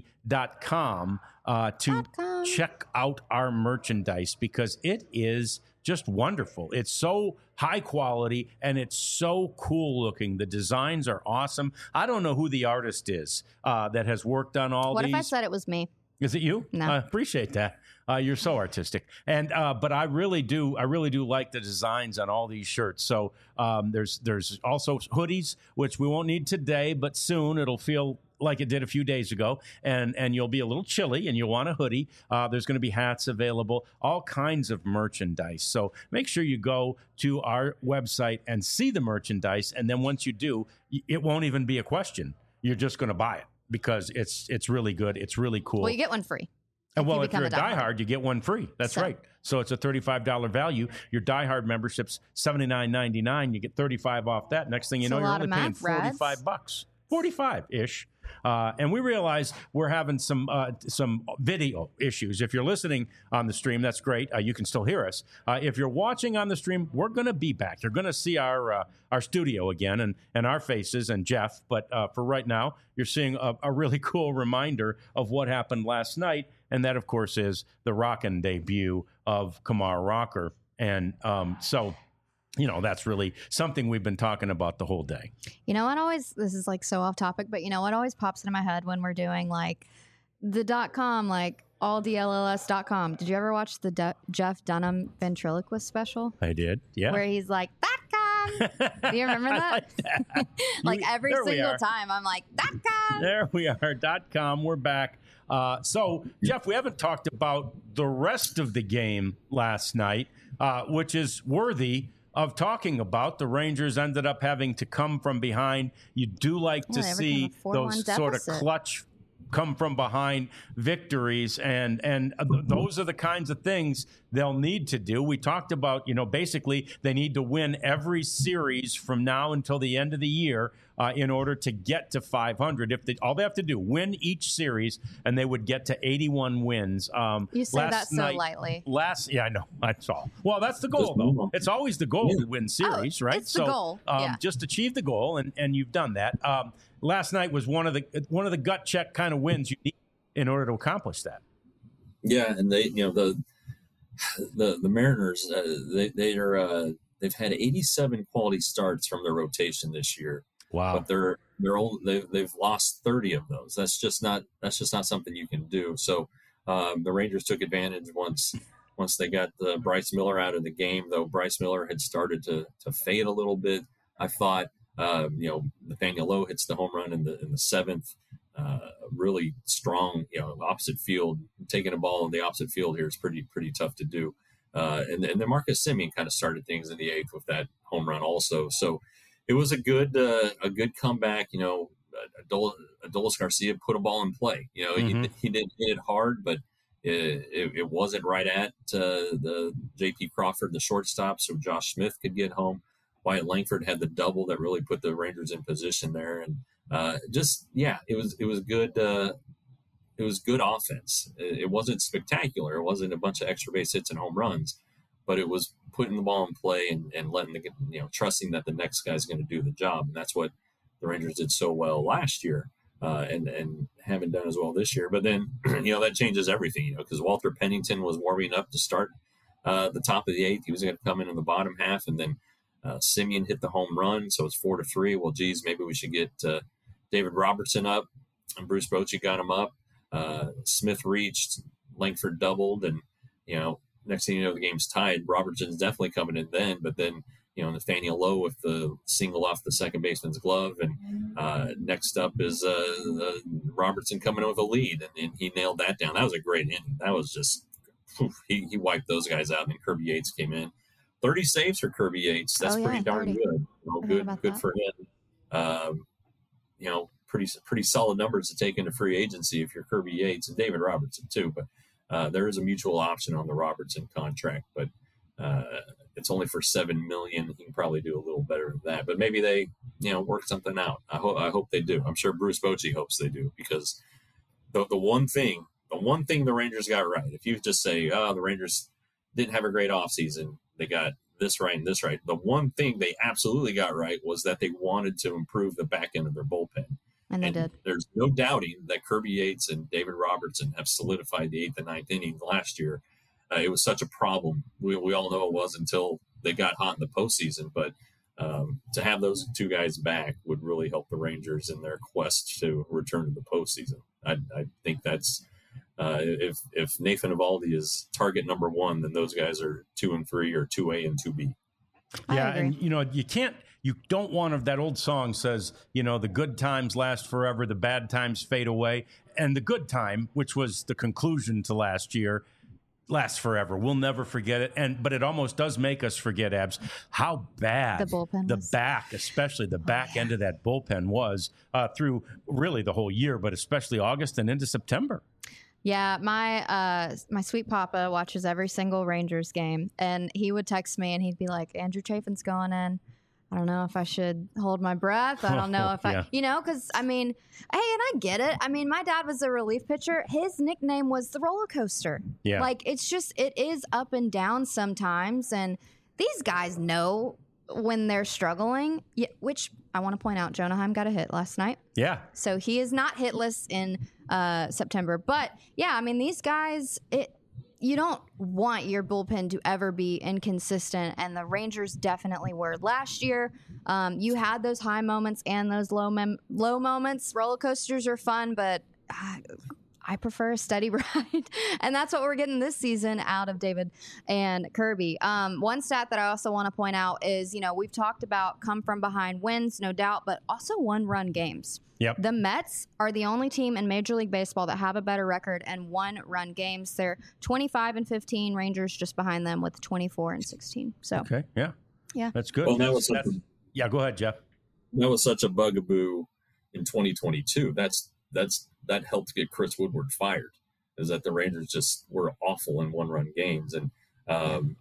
A: store.allcity.com to check out our merchandise, because it is just wonderful. It's so high quality and it's so cool looking. The designs are awesome. I don't know who the artist is that has worked on all
B: What
A: these.
B: if I said it was me?
A: Is it you?
B: No.
A: I appreciate that. You're so artistic, and but I really do like the designs on all these shirts. So there's also hoodies, which we won't need today, but soon it'll feel like it did a few days ago, and you'll be a little chilly, and you'll want a hoodie. There's going to be hats available, all kinds of merchandise. So make sure you go to our website and see the merchandise, and then once you do, it won't even be a question. You're just going to buy it because it's really good. It's really cool.
B: Well, you get one free.
A: And well, if
B: become
A: you're a diehard, you get one free. That's right. So it's a $35 value. Your diehard membership's $79.99. You get $35 off that. Next thing you know, you're only paying $45, 45-ish. And we realize we're having some video issues. If you're listening on the stream, that's great. You can still hear us. If you're watching on the stream, we're going to be back. You're going to see our studio again and our faces and Jeff. But for right now, you're seeing a really cool reminder of what happened last night. And that, of course, is the rockin' debut of Kumar Rocker. And so, you know, that's really something we've been talking about the whole day.
B: You know what always, this is like so off topic, but you know what always pops into my head when we're doing like the .com, like alldlls.com. Did you ever watch the Jeff Dunham ventriloquist special?
A: I did, yeah.
B: Where he's like, .com. Do you remember that?
A: Like that.
B: Like every single time I'm like, .com.
A: There we are, .com. We're back. So, Jeff, we haven't talked about the rest of the game last night, which is worthy of talking about. The Rangers ended up having to come from behind. You do like to see those sort of clutch come from behind victories, and those are the kinds of things they'll need to do. We talked about, you know, basically they need to win every series from now until the end of the year in order to get to 500. If all they have to do, win each series, and they would get to 81 wins.
B: You say that so lightly.
A: Yeah, I know. That's all. Well, that's the goal, though. It's always the goal to win series, right?
B: It's the goal.
A: Just achieve the goal, and you've done that. Last night was one of the gut check kind of wins you need in order to accomplish that.
C: Yeah, and they, you know, the Mariners, they've had 87 quality starts from their rotation this year.
A: Wow.
C: But they've lost 30 of those. That's just not something you can do. So the Rangers took advantage once they got Bryce Miller out of the game. Though Bryce Miller had started to fade a little bit, I thought. You know, Nathaniel Lowe hits the home run in the seventh. Really strong, you know, opposite field. Taking a ball in the opposite field here is pretty tough to do. And then Marcus Semien kind of started things in the eighth with that home run also. So it was a good comeback. You know, Adolis Garcia put a ball in play. You know, he didn't hit it hard, but it wasn't right at the J.P. Crawford, the shortstop, so Josh Smith could get home. Wyatt Langford had the double that really put the Rangers in position there, and it was good. It was good offense. It wasn't spectacular. It wasn't a bunch of extra base hits and home runs, but it was putting the ball in play and letting trusting that the next guy's going to do the job, and that's what the Rangers did so well last year, and haven't done as well this year. But then that changes everything, because Walter Pennington was warming up to start the top of the eighth. He was going to come in the bottom half, and then Semien hit the home run, so it's 4-3. Well, geez, maybe we should get David Robertson up, and Bruce Bochy got him up. Smith reached, Langford doubled, and next thing you know, the game's tied. Robertson's definitely coming in then, but then Nathaniel Lowe with the single off the second baseman's glove, and next up is Robertson coming in with a lead, and he nailed that down. That was a great inning. That was just he wiped those guys out, and then Kirby Yates came in. 30 saves for Kirby Yates. That's pretty darn good. Good for him. Pretty solid numbers to take into free agency if you're Kirby Yates, and David Robertson too. But there is a mutual option on the Robertson contract, but it's only for $7 million. He can probably do a little better than that, but maybe they work something out. I hope they do. I'm sure Bruce Bochy hopes they do, because the one thing the Rangers got right, if you just say, the Rangers didn't have a great offseason, they got this right and this right. The one thing they absolutely got right was that they wanted to improve the back end of their bullpen.
B: And they did.
C: There's no doubting that Kirby Yates and David Robertson have solidified the 8th and 9th innings last year. it was such a problem. We all know it was until they got hot in the postseason. But to have those two guys back would really help the Rangers in their quest to return to the postseason. I think that's if Nathan Eovaldi is target number one, then those guys are 2 and 3 or 2A and 2B.
A: Yeah, and you don't want that old song says, the good times last forever, the bad times fade away. And the good time, which was the conclusion to last year, lasts forever. We'll never forget it. But it almost does make us forget, Abs, how bad
B: the bullpen was.
A: Especially the back end of that bullpen was through really the whole year, but especially August and into September.
B: Yeah, my sweet papa watches every single Rangers game, and he would text me and he'd be like, Andrew Chafin's going in. I don't know if I should hold my breath. I don't know if because hey, and I get it. I mean, my dad was a relief pitcher. His nickname was the roller coaster.
A: Yeah.
B: Like, it is up and down sometimes. And these guys know when they're struggling, which I want to point out, Jonah Heim got a hit last night.
A: Yeah.
B: So he is not hitless in September. But yeah, I mean, these guys, you don't want your bullpen to ever be inconsistent, and the Rangers definitely were last year. You had those high moments and those low moments. Roller coasters are fun, but I prefer a steady ride, and that's what we're getting this season out of David and Kirby. One stat that I also want to point out is, we've talked about come from behind wins, no doubt, but also one-run games.
A: Yep.
B: The Mets are the only team in Major League Baseball that have a better record and one-run games. They're 25-15. Rangers just behind them with 24-16. So
A: okay, yeah, that's good.
C: Well,
A: go ahead, Jeff.
C: That was such a bugaboo in 2022. That helped get Chris Woodward fired. Is that the Rangers just were awful in one-run games, and and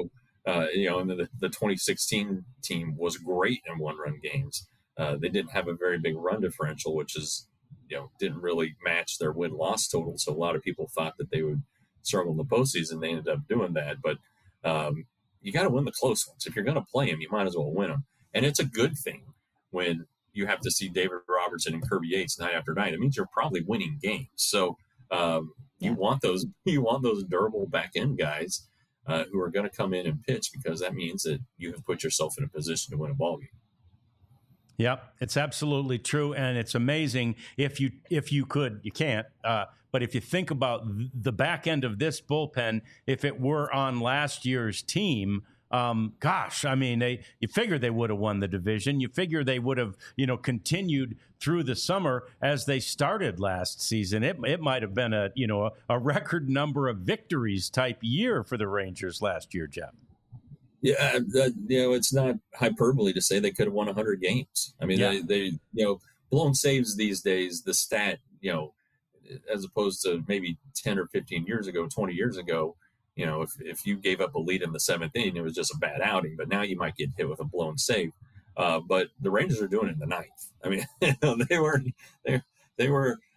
C: the 2016 team was great in one-run games. They didn't have a very big run differential, which is, didn't really match their win-loss total. So a lot of people thought that they would struggle in the postseason. They ended up doing that. But you got to win the close ones. If you're going to play them, you might as well win them. And it's a good thing when you have to see David Robertson and Kirby Yates night after night. It means you're probably winning games. So you want those durable back end guys who are going to come in and pitch, because that means that you have put yourself in a position to win a ball game.
A: Yep, it's absolutely true, and it's amazing if you could, you can't, but if you think about the back end of this bullpen, if it were on last year's team, you figure they would have won the division. You figure they would have, continued through the summer as they started last season. It might have been a record number of victories type year for the Rangers last year, Jeff.
C: Yeah, it's not hyperbole to say they could have won 100 games. I mean, they blown saves these days, the stat, as opposed to maybe 10 or 15 years ago, 20 years ago, if you gave up a lead in the 7th inning, it was just a bad outing. But now you might get hit with a blown save. But the Rangers are doing it in the 9th. I mean, they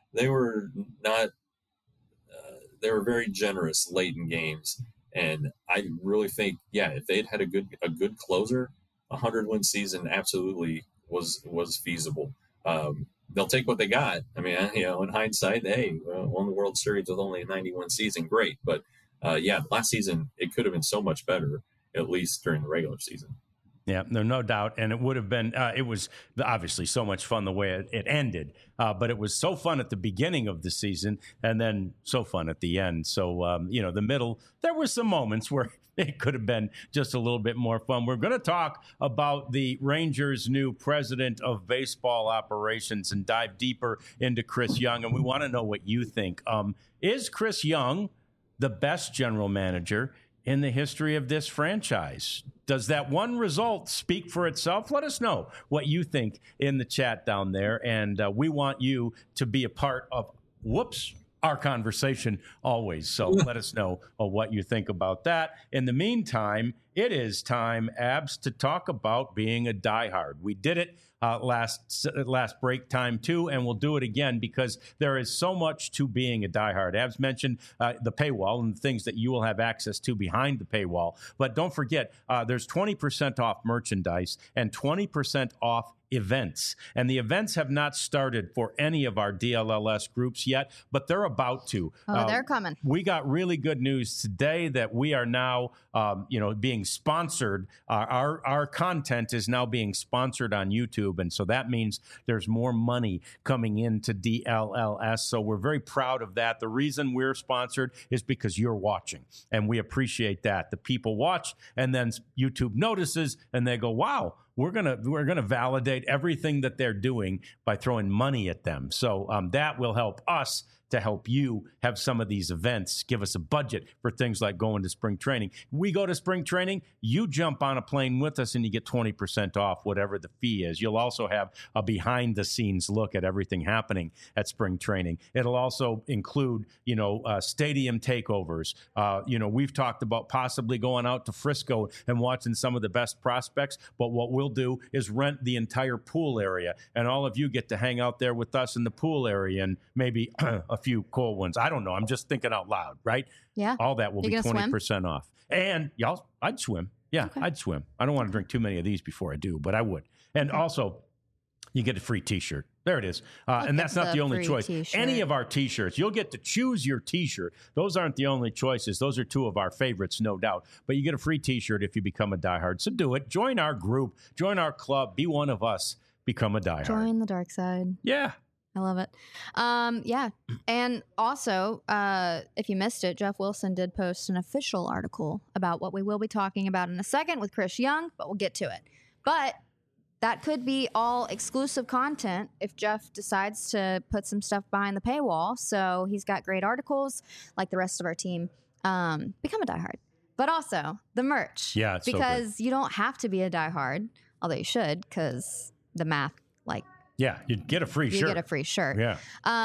C: were very generous late in games. And I really think, if they'd had a good closer, 100-win season absolutely was feasible. They'll take what they got. I mean, in hindsight, won the World Series with only a 91 season, great. But last season it could have been so much better, at least during the regular season.
A: Yeah, no doubt. And it would have been, it was obviously so much fun the way it ended, but it was so fun at the beginning of the season and then so fun at the end. So, the middle, there were some moments where it could have been just a little bit more fun. We're going to talk about the Rangers' new president of baseball operations and dive deeper into Chris Young. And we want to know what you think. Is Chris Young the best general manager in the history of this franchise? Does that one result speak for itself? Let us know what you think in the chat down there. And we want you to be a part of, our conversation always. So let us know what you think about that. In the meantime, it is time, Abs, to talk about being a diehard. We did it last break time too, and we'll do it again because there is so much to being a diehard. Abs mentioned the paywall and the things that you will have access to behind the paywall. But don't forget, there's 20% off merchandise and 20% off events. And the events have not started for any of our DLLS groups yet, but they're about to.
B: Oh, they're coming.
A: We got really good news today that we are now, being sponsored. Our content is now being sponsored on YouTube. And so that means there's more money coming into DLLS. So we're very proud of that. The reason we're sponsored is because you're watching, and we appreciate that. The people watch, and then YouTube notices, and they go, wow, we're gonna validate everything that they're doing by throwing money at them. So that will help us to help you have some of these events, give us a budget for things like going to spring training. We go to spring training, you jump on a plane with us and you get 20% off whatever the fee is. You'll also have a behind the scenes look at everything happening at spring training. It'll also include, stadium takeovers. We've talked about possibly going out to Frisco and watching some of the best prospects, but what we'll do is rent the entire pool area, and all of you get to hang out there with us in the pool area, and maybe a few cold ones. I don't know. I'm just thinking out loud, right?
B: Yeah.
A: All that will be 20% off. And I'd swim. Yeah, okay. I'd swim. I don't want to drink too many of these before I do, but I would. And also, you get a free T-shirt. There it is. And that's not the only choice. T-shirt. Any of our T-shirts, you'll get to choose your T-shirt. Those aren't the only choices. Those are two of our favorites, no doubt. But you get a free T-shirt if you become a diehard. So do it. Join our group. Join our club. Be one of us. Become a diehard.
B: Join the dark side.
A: Yeah.
B: I love it. Yeah. And also, if you missed it, Jeff Wilson did post an official article about what we will be talking about in a second with Chris Young, but we'll get to it. But that could be all exclusive content if Jeff decides to put some stuff behind the paywall. So he's got great articles like the rest of our team. Become a diehard. But also the merch.
A: Yeah, it's
B: because you don't have to be a diehard, although you should, because the math,
A: yeah, you'd get a free shirt.
B: You get a free shirt.
A: Yeah.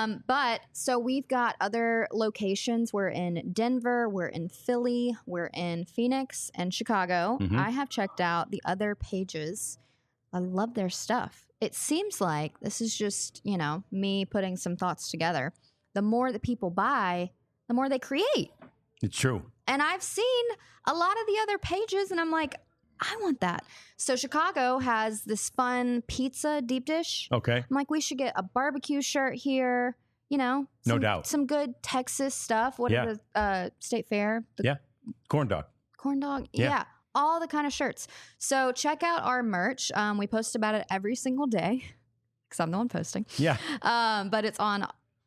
B: But so we've got other locations. We're in Denver. We're in Philly. We're in Phoenix and Chicago.
A: Mm-hmm.
B: I have checked out the other pages. I love their stuff. It seems like this is just, me putting some thoughts together. The more that people buy, the more they create.
A: It's true.
B: And I've seen a lot of the other pages, and I'm like, I want that. So Chicago has this fun pizza deep dish.
A: Okay.
B: I'm like, we should get a barbecue shirt here.
A: No doubt.
B: Some good Texas stuff. What are the State Fair?
A: Corn dog.
B: Corn dog.
A: Yeah.
B: Yeah. All the kind of shirts. So check out our merch. We post about it every single day because I'm the one posting.
A: Yeah.
B: But it's on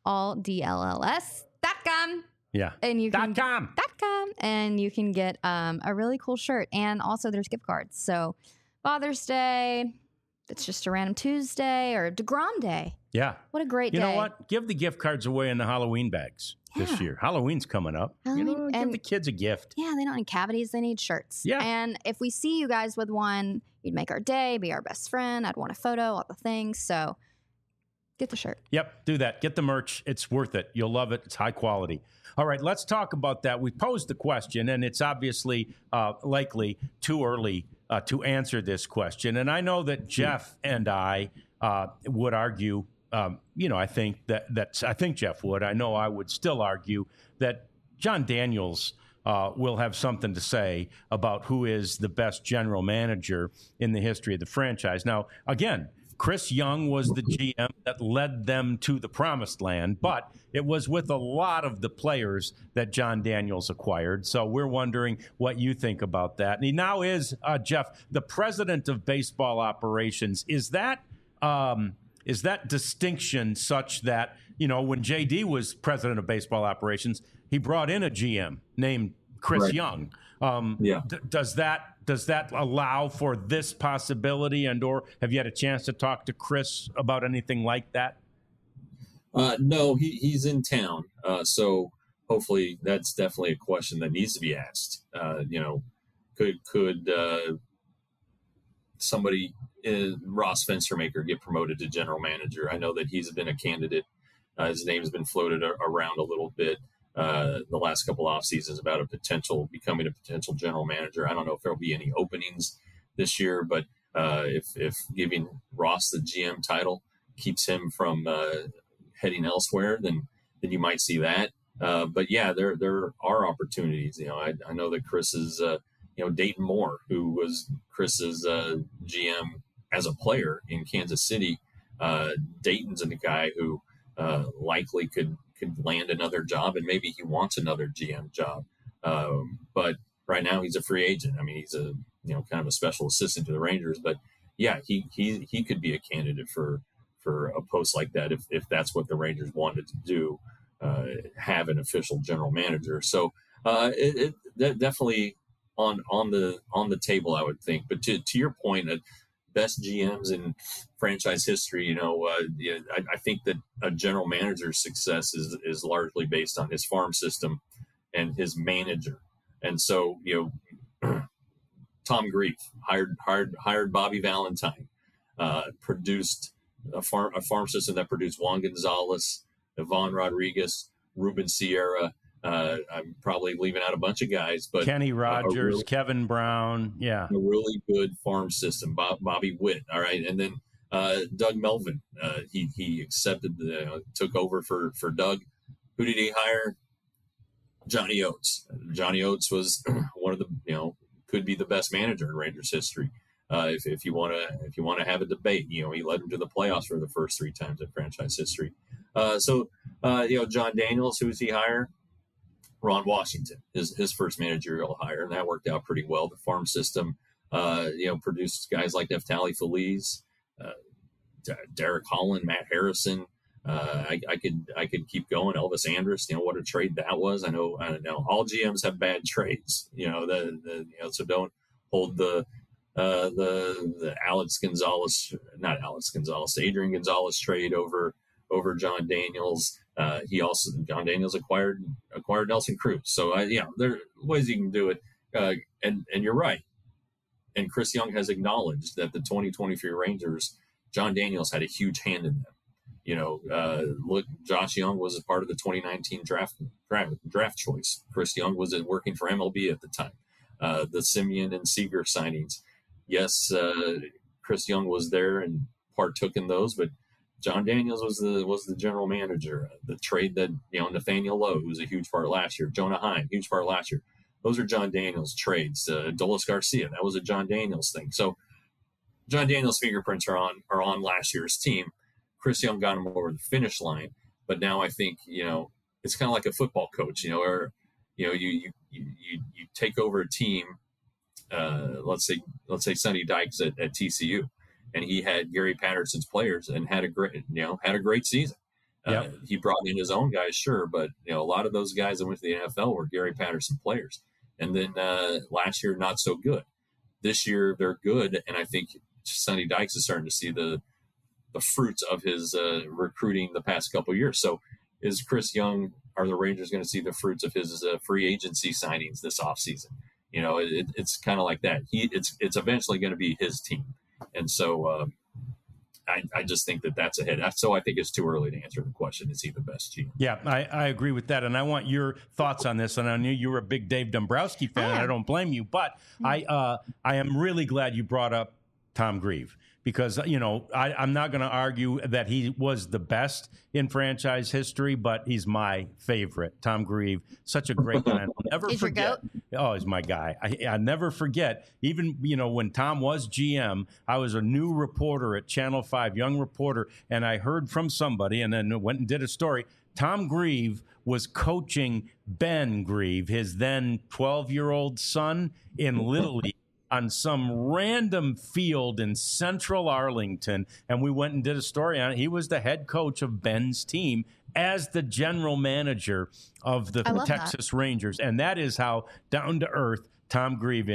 B: alldlls.com.
A: Yeah.
B: And you can
A: .com.
B: And you can get a really cool shirt. And also there's gift cards. So Father's Day, it's just a random Tuesday, or DeGrom Day.
A: Yeah.
B: What a great day.
A: You know what? Give the gift cards away in the Halloween bags this year. Halloween's coming up. Give the kids a gift.
B: Yeah, they don't need cavities. They need shirts.
A: Yeah.
B: And if we see you guys with one, you'd make our day, be our best friend. I'd want a photo, all the things. So get the shirt.
A: Yep, do that. Get the merch. It's worth it. You'll love it. It's high quality. All right, let's talk about that. We posed the question, and it's obviously likely too early to answer this question. And I know that Jeff and I would argue, I think I think Jeff would. I know I would still argue that John Daniels will have something to say about who is the best general manager in the history of the franchise. Now, again, Chris Young was the GM that led them to the promised land, but it was with a lot of the players that John Daniels acquired. So we're wondering what you think about that. And he now is, Jeff, the president of baseball operations. Is that distinction such that, when JD was president of baseball operations, he brought in a GM named Chris Young. Does that allow for this possibility, or have you had a chance to talk to Chris about anything like that?
C: No, he's in town. So hopefully that's definitely a question that needs to be asked. Could somebody, Ross Fenstermaker, get promoted to general manager? I know that he's been a candidate. His name's been floated around a little bit the last couple off seasons about becoming a potential general manager. I don't know if there'll be any openings this year, but if giving Ross the GM title keeps him from heading elsewhere, then you might see that. But yeah, there are opportunities. I know that Chris is, Dayton Moore, who was Chris's GM as a player in Kansas City, Dayton's a guy who likely could land another job, and maybe he wants another GM job. But right now he's a free agent. I mean, he's a kind of a special assistant to the Rangers, but yeah, he could be a candidate for a post like that if that's what the Rangers wanted to do, have an official general manager. So it definitely on the table, I would think. But to your point, best GMs in franchise history, I think that a general manager's success is largely based on his farm system and his manager. And so, Tom Grief hired Bobby Valentine, produced a farm system that produced Juan Gonzalez, Ivan Rodriguez, Ruben Sierra. I'm probably leaving out a bunch of guys, but
A: Kenny Rogers, Kevin Brown, a
C: really good farm system. Bobby Witt, all right, and then Doug Melvin. He accepted took over for Doug. Who did he hire? Johnny Oates. Johnny Oates was one of the could be the best manager in Rangers history. If you want to have a debate, he led them to the playoffs for the first 3 times in franchise history. So John Daniels, who does he hire? Ron Washington, his first managerial hire, and that worked out pretty well. The farm system, produced guys like Neftali Feliz, Derek Holland, Matt Harrison. I could keep going. Elvis Andrus, what a trade that was. I know all GMs have bad trades, so don't hold the Adrian Gonzalez trade over John Daniels. John Daniels acquired Nelson Cruz. So there are ways you can do it. And you're right. And Chris Young has acknowledged that the 2023 Rangers, John Daniels had a huge hand in them. Look, Josh Young was a part of the 2019 draft choice. Chris Young was working for MLB at the time. The Simeon and Seager signings. Yes, Chris Young was there and partook in those, but John Daniels was the general manager. The trade that Nathaniel Lowe, who was a huge part last year, Jonah Heim, huge part last year. Those are John Daniels trades. Dolis Garcia, that was a John Daniels thing. So John Daniels' fingerprints are on last year's team. Chris Young got him over the finish line, but now I think it's kind of like a football coach, or you take over a team. Let's say Sonny Dykes at TCU. And he had Gary Patterson's players and had a great season. Yep. He brought in his own guys, sure, but a lot of those guys that went to the NFL were Gary Patterson players. And then last year, not so good. This year, they're good, and I think Sonny Dykes is starting to see the fruits of his recruiting the past couple of years. So, is Chris Young? Are the Rangers going to see the fruits of his free agency signings this offseason? It's kind of like that. It's eventually going to be his team. And so I just think that's ahead. So I think it's too early to answer the question. Is he the best GM?
A: Yeah, I agree with that. And I want your thoughts on this. And I knew you were a big Dave Dombrowski fan, and I don't blame you. But I am really glad you brought up Tom Grieve, because, I'm not going to argue that he was the best in franchise history, but he's my favorite. Tom Grieve, such a great guy. I'll never forget. Oh, he's my guy. I never forget. Even, when Tom was GM, I was a new reporter at Channel 5, young reporter, and I heard from somebody and then went and did a story. Tom Grieve was coaching Ben Grieve, his then 12-year-old son, in Little League on some random field in central Arlington, and we went and did a story on it. He was the head coach of Ben's team as the general manager of the Texas Rangers, and that is how down to earth Tom Grieve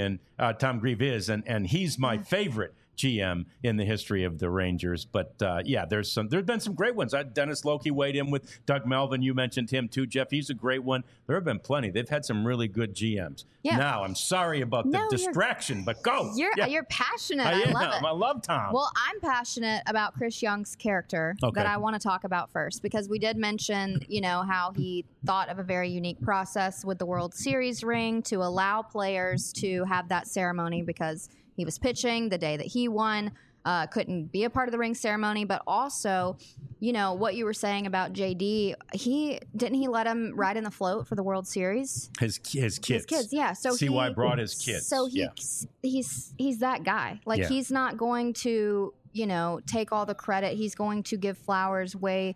A: is, and he's my favorite GM in the history of the Rangers. But there's been some great ones. Dennis Loki weighed in with Doug Melvin. You mentioned him too, Jeff. He's a great one. There have been plenty. They've had some really good GMs. Yeah. Now, I'm sorry about the distraction, but go.
B: You're passionate. I love it.
A: I love Tom.
B: Well, I'm passionate about Chris Young's character that I want to talk about first, because we did mention, how he thought of a very unique process with the World Series ring to allow players to have that ceremony because he was pitching the day that he won. couldn't be a part of the ring ceremony, but also, you know, what you were saying about JD, he let him ride in the float for the World Series?
A: His kids.
B: His kids, yeah. So
A: CY brought his kids.
B: So he's that guy. Like, he's not going to, you know, take all the credit. He's going to give flowers where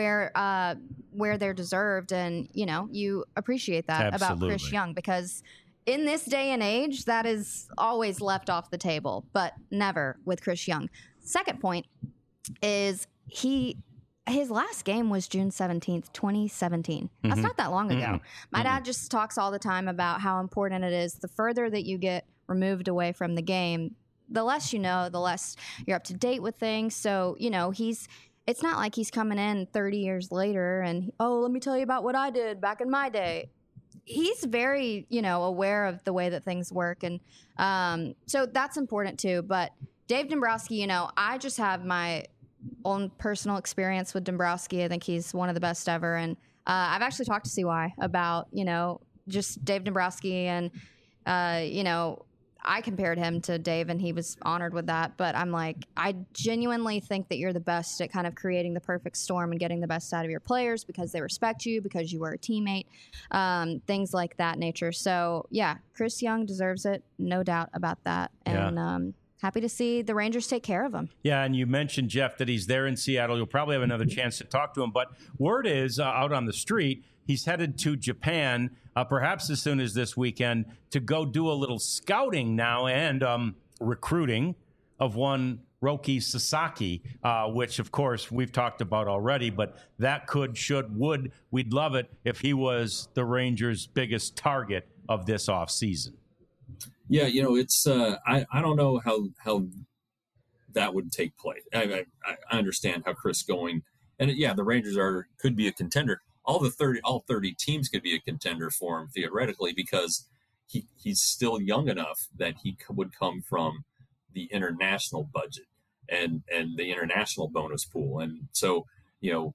B: they're deserved, and you know, you appreciate that about Chris Young, because in this day and age, that is always left off the table, but never with Chris Young. Second point is his last game was June 17th, 2017. That's not that long ago. My dad just talks all the time about how important it is. The further that you get removed away from the game, the less you know, the less you're up to date with things. So, you know, it's not like he's coming in 30 years later and, oh, let me tell you about what I did back in my day. He's very, you know, aware of the way that things work. And so that's important too. But Dave Dombrowski, you know, I just have my own personal experience with Dombrowski. I think he's one of the best ever. And I've actually talked to CY about, you know, just Dave Dombrowski, and, you know, I compared him to Dave, and he was honored with that. But I'm like, I genuinely think that you're the best at kind of creating the perfect storm and getting the best out of your players because they respect you, because you were a teammate, things like that nature. So, yeah, Chris Young deserves it. No doubt about that. And happy to see the Rangers take care of him. Yeah,
A: and you mentioned, Jeff, that he's there in Seattle. You'll probably have another chance to talk to him. But word is out on the street, he's headed to Japan, perhaps as soon as this weekend, to go do a little scouting now and recruiting of one Roki Sasaki, which, of course, we've talked about already. But that we'd love it if he was the Rangers' biggest target of this offseason.
C: Yeah, you know, it's I don't know how that would take place. I understand how Chris going, and the Rangers could be a contender. All 30 teams could be a contender for him theoretically, because he's still young enough that he would come from the international budget and the international bonus pool, and so, you know,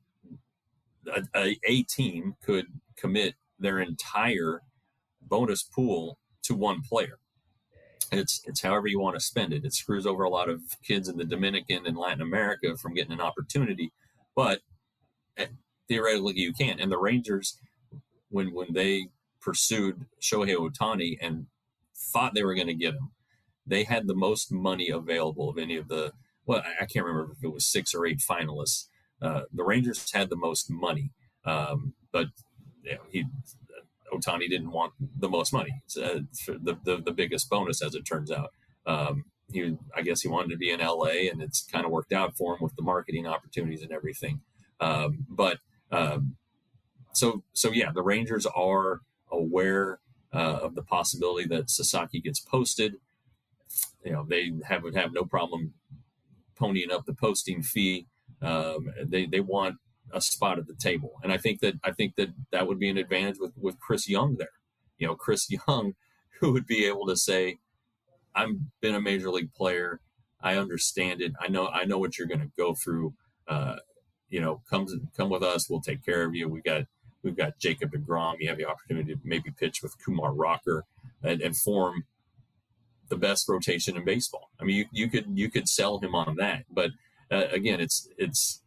C: a team could commit their entire bonus pool to one player. It's however you want to spend it. It screws over a lot of kids in the Dominican and Latin America from getting an opportunity, but theoretically you can. And the Rangers, when they pursued Shohei Ohtani and thought they were going to get him, they had the most money available of any of the, well, I can't remember if it was 6 or 8 finalists. The Rangers had the most money, but Ohtani didn't want the most money. It's the biggest bonus, as it turns out. I guess he wanted to be in LA, and it's kind of worked out for him with the marketing opportunities and everything. So the Rangers are aware of the possibility that Sasaki gets posted. You know, they would have no problem ponying up the posting fee. They want a spot at the table, and I think that would be an advantage with Chris Young there. You know, Chris Young, who would be able to say, "I've been a major league player. I understand it. I know what you're going to go through. You know, come with us. We'll take care of you. We've got Jacob deGrom. You have the opportunity to maybe pitch with Kumar Rocker and form the best rotation in baseball. I mean, you could sell him on that, but again, it's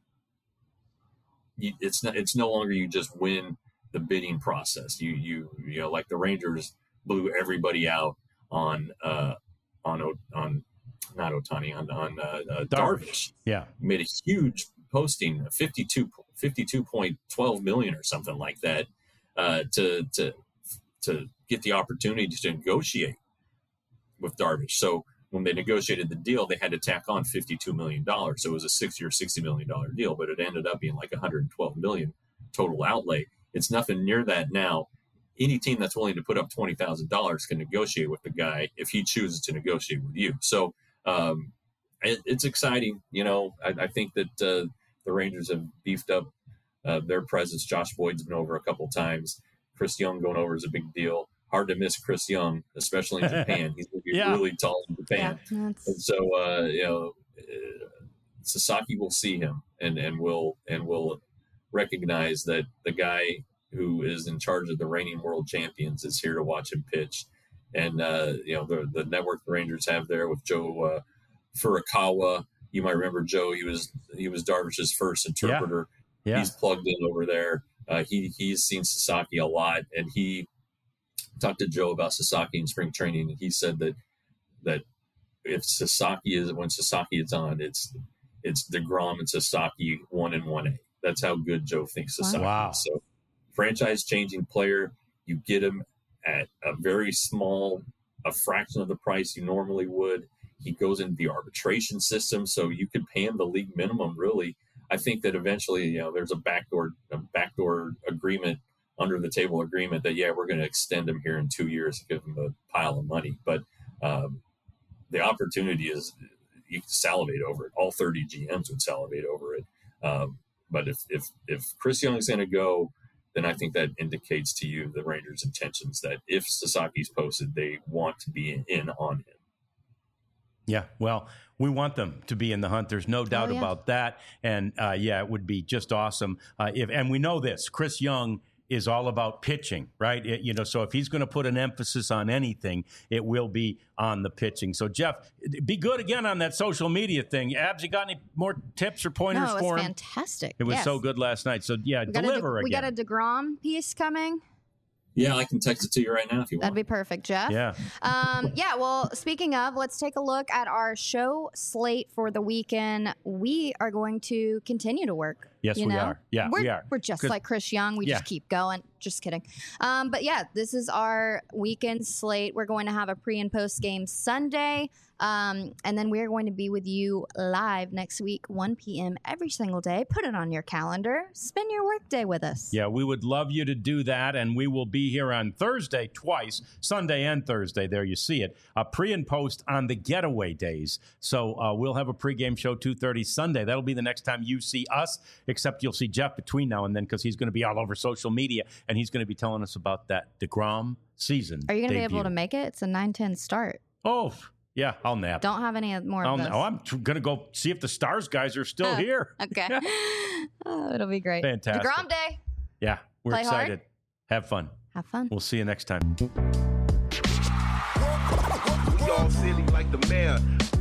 C: no longer you just win the bidding process. You know, like the Rangers blew everybody out on not Ohtani, on Darvish.
A: Yeah,
C: made a huge posting, 52.12 million or something like that, to get the opportunity to negotiate with Darvish. So when they negotiated the deal, they had to tack on $52 million. So it was a 6-year, $60 million deal, but it ended up being like $112 million total outlay. It's nothing near that now. Any team that's willing to put up $20,000 can negotiate with the guy if he chooses to negotiate with you. So it's exciting. You know, I think that the Rangers have beefed up their presence. Josh Boyd's been over a couple times. Chris Young going over is a big deal. Hard to miss Chris Young, especially in Japan. He's going to be really tall in Japan. Yeah, and so, you know, Sasaki will see him and will recognize that the guy who is in charge of the reigning world champions is here to watch him pitch. And, you know, the network the Rangers have there with Joe Furukawa You might remember Joe. He was Darvish's first interpreter.
A: Yeah.
C: He's plugged in over there. He's seen Sasaki a lot, and he talked to Joe about Sasaki in spring training, and he said that if Sasaki is on, it's DeGrom and Sasaki 1 and 1A. That's how good Joe thinks Sasaki is. So, franchise-changing player, you get him at a very a fraction of the price you normally would. He goes into the arbitration system, so you could pay him the league minimum, really. I think that eventually, there's a backdoor agreement, under the table agreement that, we're going to extend him here in 2 years and give him a pile of money. But the opportunity is, you can salivate over it. All 30 GMs would salivate over it. But if Chris Young's going to go, then I think that indicates to you the Rangers' intentions that if Sasaki's posted, they want to be in on him.
A: Yeah, well, we want them to be in the hunt. There's no doubt about that. And it would be just awesome and we know this. Chris Young is all about pitching, right? So if he's going to put an emphasis on anything, it will be on the pitching. So, Jeff, be good again on that social media thing. Abs, you got any more tips or pointers for him?
B: No, it was fantastic.
A: It was so good last night. So, deliver again.
B: We got a DeGrom piece coming.
C: Yeah, I can text it to you right now if you want.
B: That'd be perfect, Jeff.
A: Yeah.
B: Well, speaking of, let's take a look at our show slate for the weekend. We are going to continue to work.
A: Yes, we are. Yeah, we are.
B: We're just like Chris Young. We just keep going. Just kidding. But this is our weekend slate. We're going to have a pre and post game Sunday. And then we're going to be with you live next week, 1 p.m. every single day. Put it on your calendar. Spend your work day with us. Yeah, we would love you to do that. And we will be here on Thursday twice, Sunday and Thursday. There you see it. Pre and post on the getaway days. So we'll have a pregame show 2:30 Sunday. That'll be the next time you see us, except you'll see Jeff between now and then because he's going to be all over social media and he's going to be telling us about that DeGrom season. Are you going to be able to make it? It's a 9:10 start. Oh, yeah, I'll nap. Don't have any more of those. I'm going to go see if the Stars guys are still here. Okay. It'll be great. Fantastic. DeGrom Day. Yeah, we're excited. Have fun. Have fun. We'll see you next time. We all silly like the mayor.